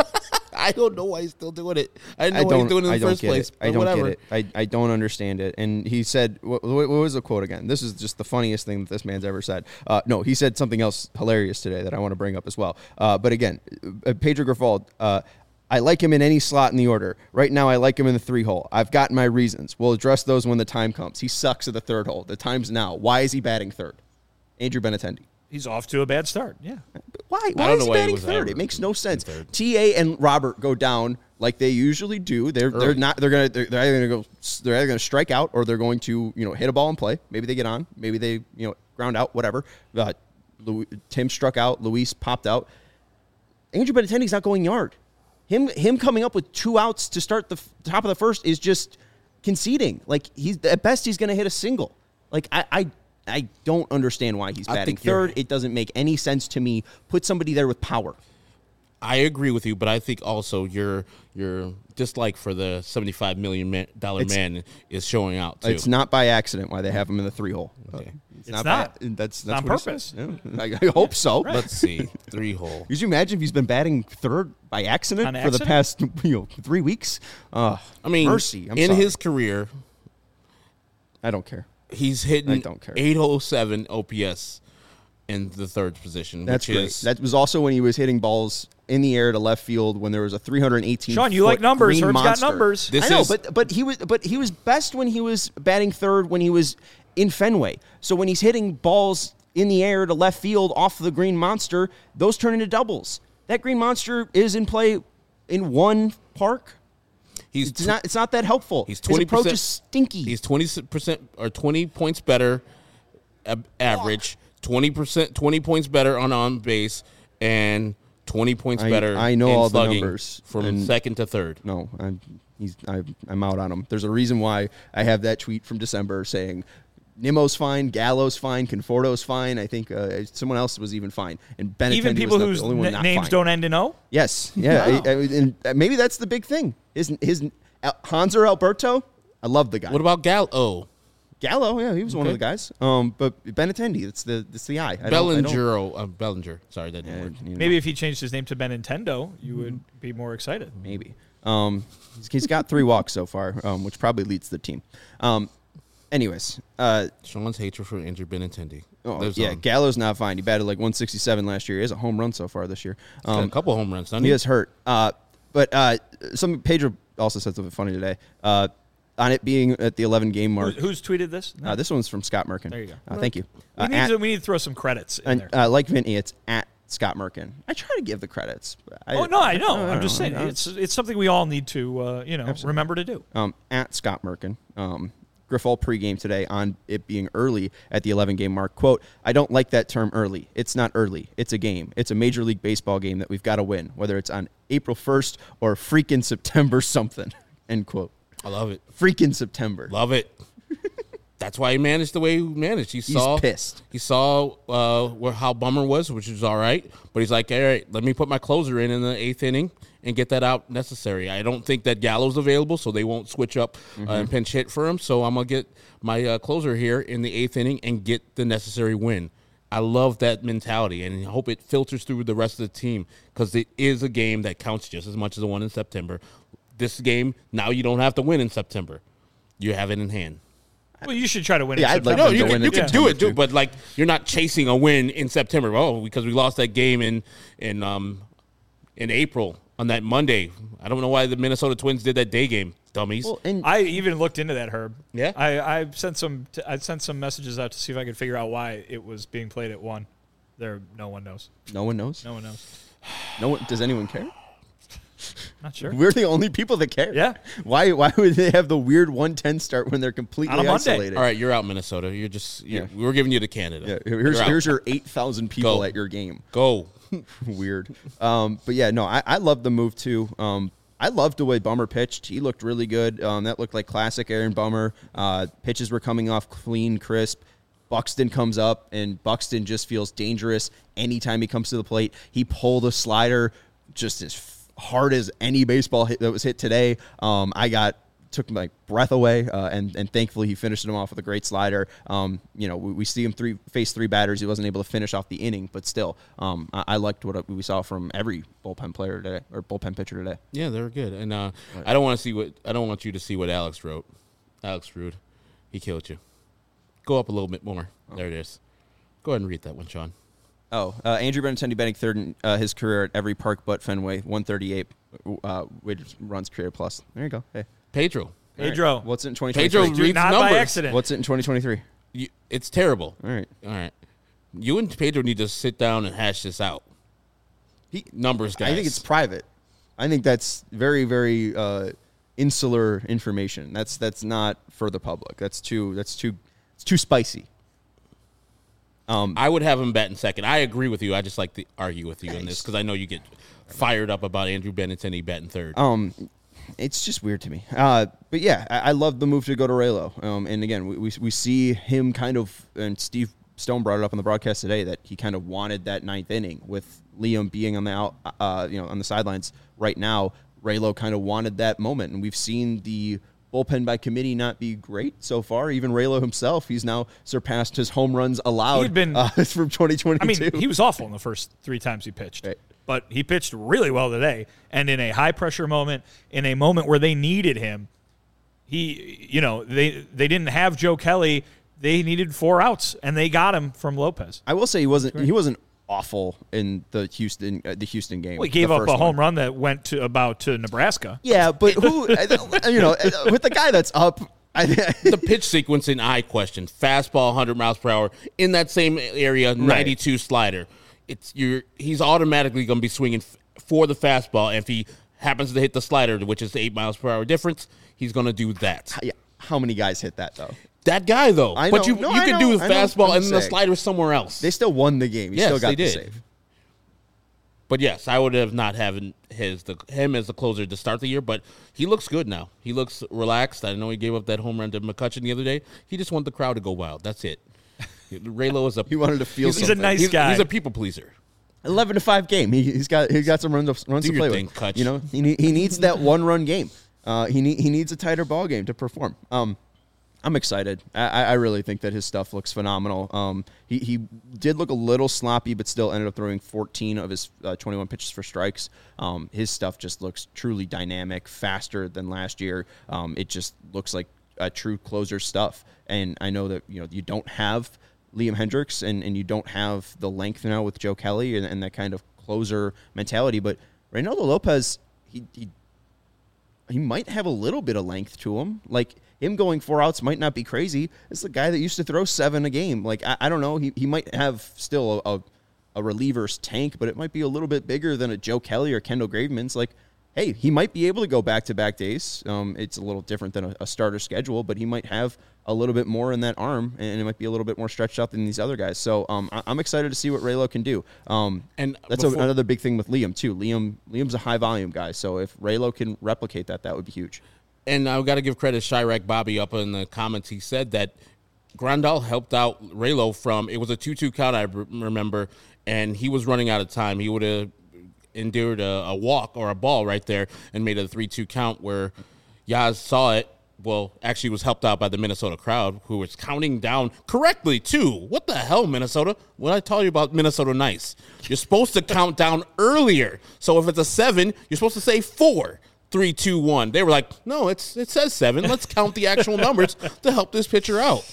I don't know why he's still doing it. I know I why don't. he's doing it in I the don't first get place. it. I but don't whatever. get it. I, I don't understand it. And he said, what, what was the quote again? This is just the funniest thing that this man's ever said. Uh, no, he said something else hilarious today that I want to bring up as well. Uh, but again, uh, Pedro Grifol, uh, I like him in any slot in the order. Right now, I like him in the three hole. I've got my reasons. We'll address those when the time comes. He sucks at the third hole. The time's now. Why is he batting third? Andrew Benintendi. He's off to a bad start. Yeah. Why? Why don't is know he why he batting was third? ever It makes no sense. third. T A and Robert go down like they usually do. They're they're Early. not. They're gonna. They're, they're either gonna go. They're either gonna strike out or they're going to you know hit a ball and play. Maybe they get on. Maybe they you know ground out. Whatever. Uh, Louis, Tim struck out. Luis popped out. Andrew Benintendi's not going yard. Him him coming up with two outs to start the f- top of the first is just conceding. Like he's at best he's gonna hit a single. Like I. I I don't understand why he's I batting think you're- third. It doesn't make any sense to me. Put somebody there with power. I agree with you, but I think also your your dislike for the seventy-five million dollar It's- man is showing out too. It's not by accident why they have him in the three hole. Okay. It's, It's by- not. that's It's that's on what he purpose. says. Yeah. I, I hope so. Let's see, three hole. Could you imagine if he's been batting third by accident, On for the accident? past you know three weeks? Uh, I mean, mercy. I'm in sorry. his career, I don't care. he's I hitting don't care. eight oh seven O P S in the third position. That's which great. Is, That was also when he was hitting balls in the air to left field when there was a three hundred eighteen. Sean, you like foot numbers. green Herb's got monster. numbers. This I know, is- but but he was but he was best when he was batting third when he was in Fenway. So when he's hitting balls in the air to left field off the green monster, those turn into doubles. That green monster is in play in one park. he's It's tw- not. It's not that helpful. He's His twenty approach percent. is stinky. He's twenty percent or twenty points better, ab- average. Twenty percent, twenty points better on on base, and twenty points I- better. I know in all the slugging numbers, from and- second to third. No, I'm he's I, I'm out on him. There's a reason why I have that tweet from December saying Nimmo's fine, Gallo's fine, Conforto's fine. I think uh, someone else was even fine, and Benintendi Even people was not whose the only one n- not names fine. don't end in O? Yes, yeah, Wow. I- I- and uh, maybe that's the big thing. His his uh, Hanser Alberto, I love the guy. What about Gal? Oh, Gallo? Yeah, he was one of Okay. the guys. Um, but Benintendi, it's the it's the eye. I don't- I don't- Bellinger. Oh, uh, Bellinger. Sorry, that didn't Yeah, work. you know, Maybe if he changed his name to Benintendo, you would be more excited. maybe. Um, he's- he's got three walks so far, um, which probably leads the team. Um, anyways, uh, Sean's hatred for Andrew Benintendi. oh, Lives yeah, on. Gallo's not fine. He batted like one sixty-seven last year. He has a home run so far this year. Got a Um, couple home runs. Doesn't he he? is hurt. Uh, but uh, some Pedro also said something funny today. Uh, on it being at the eleven game Who, mark. who's tweeted this? No. Uh, this one's from Scott Merkin. There you go. Uh, thank you. we, Uh, need at- to, we need to throw some credits in and there. uh, like Vinny, it's at Scott Merkin. I try to give the credits. I, oh no, I know. I I'm just know. saying I know. it's it's something we all need to uh, you know Absolutely. remember to do. um, at Scott Merkin. Um, Grifol pregame today on it being early at the eleven game mark. Quote, I don't like that term early. It's not early. It's a game. It's a Major League Baseball game that we've got to win, whether it's on April first or freaking September something. End quote. I love it. Freaking September. Love it. That's why he managed the way he managed. He He's saw pissed. He saw uh, where how Bummer was, which was all right. But he's like, all right, let me put my closer in in the eighth inning and get that out necessary. I don't think that Gallo's available, so they won't switch up uh, and pinch hit for him. So I'm gonna get my uh, closer here in the eighth inning and get the necessary win. I love that mentality, and I hope it filters through the rest of the team because it is a game that counts just as much as the one in September. This game, now you don't have to win in September. You have it in hand. Well, you should try to win. Yeah, in I'd like September. No, them you to can, win you in can do September, it, too, too. but like you're not chasing a win in September. Oh, because we lost that game in in um in April. on that Monday. I don't know why the Minnesota Twins did that day game, dummies. Well, and I even looked into that, Herb. Yeah? I, I sent some. T- I sent some messages out to see if I could figure out why it was being played at one. There, no one knows. no one knows. No one knows. No one. Does anyone care? Not sure. We're the only people that care. Yeah. Why? Why would they have the weird one ten start when they're completely On a Monday. isolated? All right, you're out, Minnesota. You're just you're, Yeah. we're giving you to Canada. Yeah. Here's You're out. here's your eight thousand people Go. at your game. Go. Weird. Um, but yeah, no, I, I love the move too. Um, I loved the way Bummer pitched. He looked really good. Um, that looked like classic Aaron Bummer. Uh, pitches were coming off clean, crisp. Buxton comes up, and Buxton just feels dangerous anytime he comes to the plate. He pulled a slider just as hard as any baseball hit that was hit today. Um, I got took my breath away, uh, and and thankfully he finished him off with a great slider. Um, you know, we, we see him three face three batters. He wasn't able to finish off the inning, but still, um, I, I liked what we saw from every bullpen player today or bullpen pitcher today. Yeah, they were good. And uh, I don't want to see what I don't want you to see what Alex wrote. Alex Rude, he killed you. Go up a little bit more. Oh. There it is. Go ahead and read that one, Sean. Oh, uh, Andrew Benintendi batting third in uh, his career at every park but Fenway, one thirty-eight, uh, which runs career plus. There you go. Hey, Pedro. Pedro. Right. What's it in twenty Pedro twenty-three? reads Not numbers. by accident. What's it in twenty twenty-three? You, it's terrible. All right. All right. You and Pedro need to sit down and hash this out. He, Numbers, guys. I think it's private. I think that's very, very uh, insular information. That's that's not for the public. That's too. That's too. It's too spicy. Um, I would have him batting second. I agree with you. I just like to argue with you on this because I know you get fired up about Andrew Benintendi batting third. Um, it's just weird to me. Uh, but yeah, I, I love the move to go to Raylo. Um, and again, we, we we see him kind of, and Steve Stone brought it up on the broadcast today that he kind of wanted that ninth inning with Liam being on the out, uh, you know, on the sidelines right now. Raylo kind of wanted that moment, and we've seen the bullpen by committee not be great so far. Even Raylo himself, he's now surpassed his home runs allowed He'd been- uh, from twenty twenty-two. I mean, he was awful in the first three times he pitched. Right. But he pitched really well today. And in a high-pressure moment, in a moment where they needed him, he, you know, they they didn't have Joe Kelly. They needed four outs, and they got him from Lopez. I will say he wasn't he wasn't awful in the Houston uh, the Houston game. Well, he gave the up a first home one. run that went to about to Nebraska. Yeah, but who, you know, with the guy that's up, I The pitch sequence in I question. Fastball, one hundred miles per hour. In that same area, ninety-two slider. It's you're, He's automatically going to be swinging f- for the fastball. And if he happens to hit the slider, which is the eight miles per hour difference, he's going to do that. yeah, how many guys hit that though? That guy, though. I but know. you, No, you I could know. do the I know. fastball I'm and then the saying. slider somewhere else. They still won the game. He Yes, still got they the did. save. But yes, I would have not having his the him as the closer to start the year, but he looks good now. He looks relaxed. I know he gave up that home run to McCutcheon the other day. He just wanted the crowd to go wild. That's it. Raylo is a He wanted to feel He's a something. nice he's, guy. he's a people pleaser. eleven to five game. He, he's got he's got some runs to, runs Do to your play thing, with. Kutch. You know, he need, he needs that one run game. Uh, he need, he needs a tighter ball game to perform. Um, I'm excited. I, I really think that his stuff looks phenomenal. Um, he he did look a little sloppy, but still ended up throwing fourteen of his uh, twenty-one pitches for strikes. Um, his stuff just looks truly dynamic, faster than last year. Um, it just looks like a true closer stuff. And I know that you know you don't have Liam Hendricks and, and you don't have the length now with Joe Kelly and, and that kind of closer mentality, but Reynaldo Lopez, he, he he might have a little bit of length to him. Like, him going four outs might not be crazy. It's the guy that used to throw seven a game. Like, I, I don't know. He he might have still a, a, a reliever's tank, but it might be a little bit bigger than a Joe Kelly or Kendall Graveman's. Like, hey, he might be able to go back-to-back days. Um, it's a little different than a, a starter schedule, but he might have a little bit more in that arm, and it might be a little bit more stretched out than these other guys. So um, I, I'm excited to see what Raylo can do. Um, And that's before- a, another big thing with Liam, too. Liam Liam's a high-volume guy, so if Raylo can replicate that, that would be huge. And I've got to give credit to Chirac Bobby up in the comments. He said that Grandal helped out Raylo from, it was a two two count, I remember, and he was running out of time. He would have endured a, a walk or a ball right there and made it a three two count where Yaz saw it. Well, actually was helped out by the Minnesota crowd, who was counting down correctly, too. What the hell, Minnesota? What I tell you about Minnesota nice? You're supposed to count down earlier. So if it's a seven, you're supposed to say four. Three, two, one. They were like, no, it's it says seven. Let's count the actual numbers to help this pitcher out.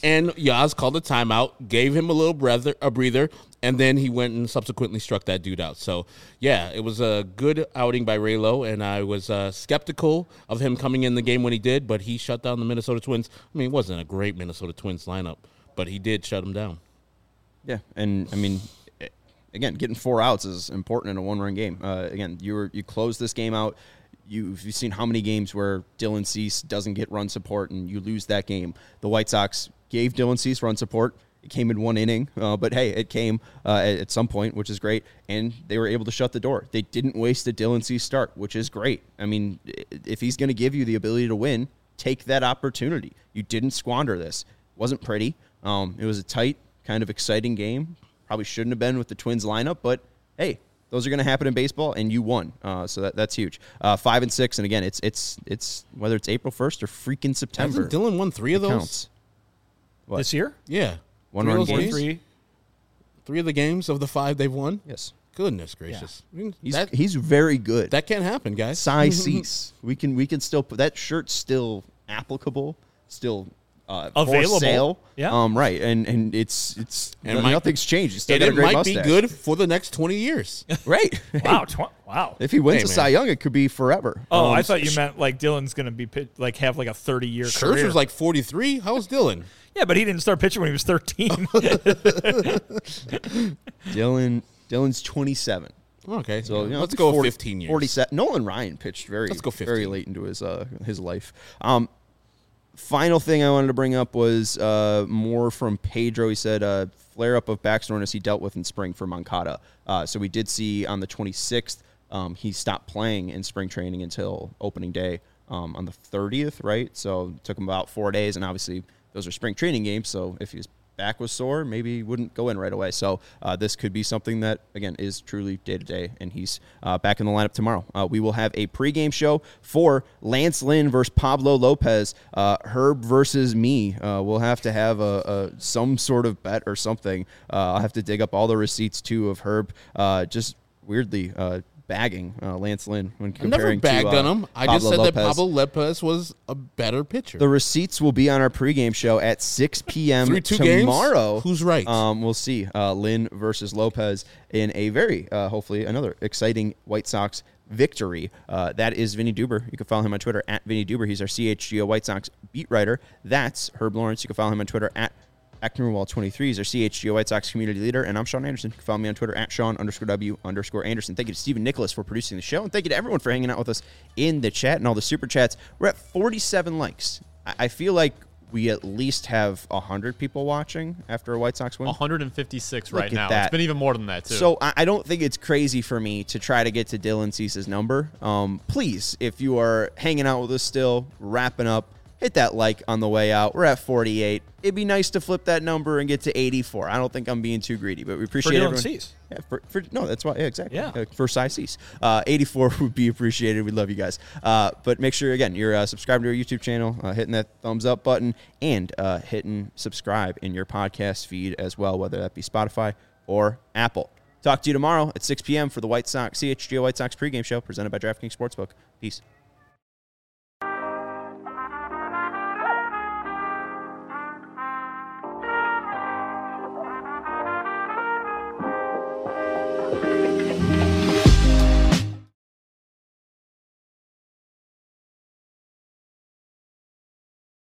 And Yaz called a timeout, gave him a little breather, a breather, and then he went and subsequently struck that dude out. So, yeah, it was a good outing by Raylo, and I was uh, skeptical of him coming in the game when he did, but he shut down the Minnesota Twins. I mean, it wasn't a great Minnesota Twins lineup, but he did shut them down. Yeah, and, I mean, again, getting four outs is important in a one-run game. Uh, again, you were you closed this game out. You've, you've seen how many games where Dylan Cease doesn't get run support and you lose that game. The White Sox gave Dylan Cease run support. It came in one inning, uh, but hey, it came uh, at, at some point, which is great, and they were able to shut the door. They didn't waste a Dylan Cease start, which is great. I mean, if he's going to give you the ability to win, take that opportunity. You didn't squander this. It wasn't pretty. Um, it was a tight, kind of exciting game. Probably shouldn't have been with the Twins lineup, but hey, those are going to happen in baseball, and you won. Uh, so that, that's huge. Uh, five and six, and again, it's it's it's whether it's April first or freaking September. Hasn't Dylan won three of those? Counts. What? This year? Yeah. One three run of those games? games? Three. Three of the games of the five they've won? Yes. Goodness gracious. I mean, He's that, he's very good. that can't happen, guys. Cy Cease. We can we can still put that shirt's still applicable, still uh, Available. for sale. Yeah. Um. Right. And and it's it's And it might- nothing's changed. He's still And got a it great might be mustache. good for the next twenty years. Right. Wow. Tw- wow. If he wins Hey, a man. Cy Young, it could be forever. Oh, Um, I thought you meant like Dylan's going to be pit- like have like a thirty-year career. Scherzer's like forty-three. How's Dylan? Yeah, but he didn't start pitching when he was thirteen. Dylan. Dylan's twenty-seven. Okay, So you know, let's go forty, fifteen years. forty-seven. Nolan Ryan pitched very, Let's go very fifteen. late into his uh, his life. Um, final thing I wanted to bring up was uh, more from Pedro. He said uh, flare up of back soreness he dealt with in spring for Moncada. Uh, so we did see on the twenty-sixth um, he stopped playing in spring training until opening day um, on the thirtieth, right? So it took him about four days, and obviously those are spring training games. So if his back was sore, maybe he wouldn't go in right away. So uh, this could be something that, again, is truly day-to-day, and he's uh, back in the lineup tomorrow. Uh, we will have a pregame show for Lance Lynn versus Pablo Lopez, uh, Herb versus me. Uh, we'll have to have a, a some sort of bet or something. Uh, I'll have to dig up all the receipts, too, of Herb uh, just weirdly uh, bagging uh, Lance Lynn when I never comparing bagged to uh, on him. I Pablo just said Lopez. that Pablo Lopez was a better pitcher. The receipts will be on our pregame show at six p.m. Through two games? tomorrow. Who's right? Um, we'll see. Uh, Lynn versus Lopez in a very, uh, hopefully, another exciting White Sox victory. Uh, that is Vinny Duber. You can follow him on Twitter at Vinny Duber. He's our C H G O White Sox beat writer. That's Herb Lawrence. You can follow him on Twitter at Ecknerwall twenty-three. He's our C H G O White Sox community leader, and I'm Sean Anderson. You can follow me on Twitter at Sean underscore W underscore Anderson. Thank you to Stephen Nicholas for producing the show, and thank you to everyone for hanging out with us in the chat and all the super chats. We're at forty-seven likes. I, I feel like we at least have one hundred people watching after a White Sox win. one hundred fifty-six Look right at now. that. It's been even more than that, too. So I, I don't think it's crazy for me to try to get to Dylan Cease's number. Um, please, if you are hanging out with us still, wrapping up, hit that like on the way out. We're at forty-eight. It'd be nice to flip that number and get to eighty-four. I don't think I'm being too greedy, but we appreciate Dylan everyone. Cease. Yeah, for, for, no, that's why. Yeah, exactly. Yeah. Uh, for Cy Cease. Uh, eighty-four would be appreciated. We love you guys. Uh, but make sure, again, you're uh, subscribed to our YouTube channel, uh, hitting that thumbs up button, and uh, hitting subscribe in your podcast feed as well, whether that be Spotify or Apple. Talk to you tomorrow at six p.m. for the White Sox, C H G O White Sox pregame show presented by DraftKings Sportsbook. Peace.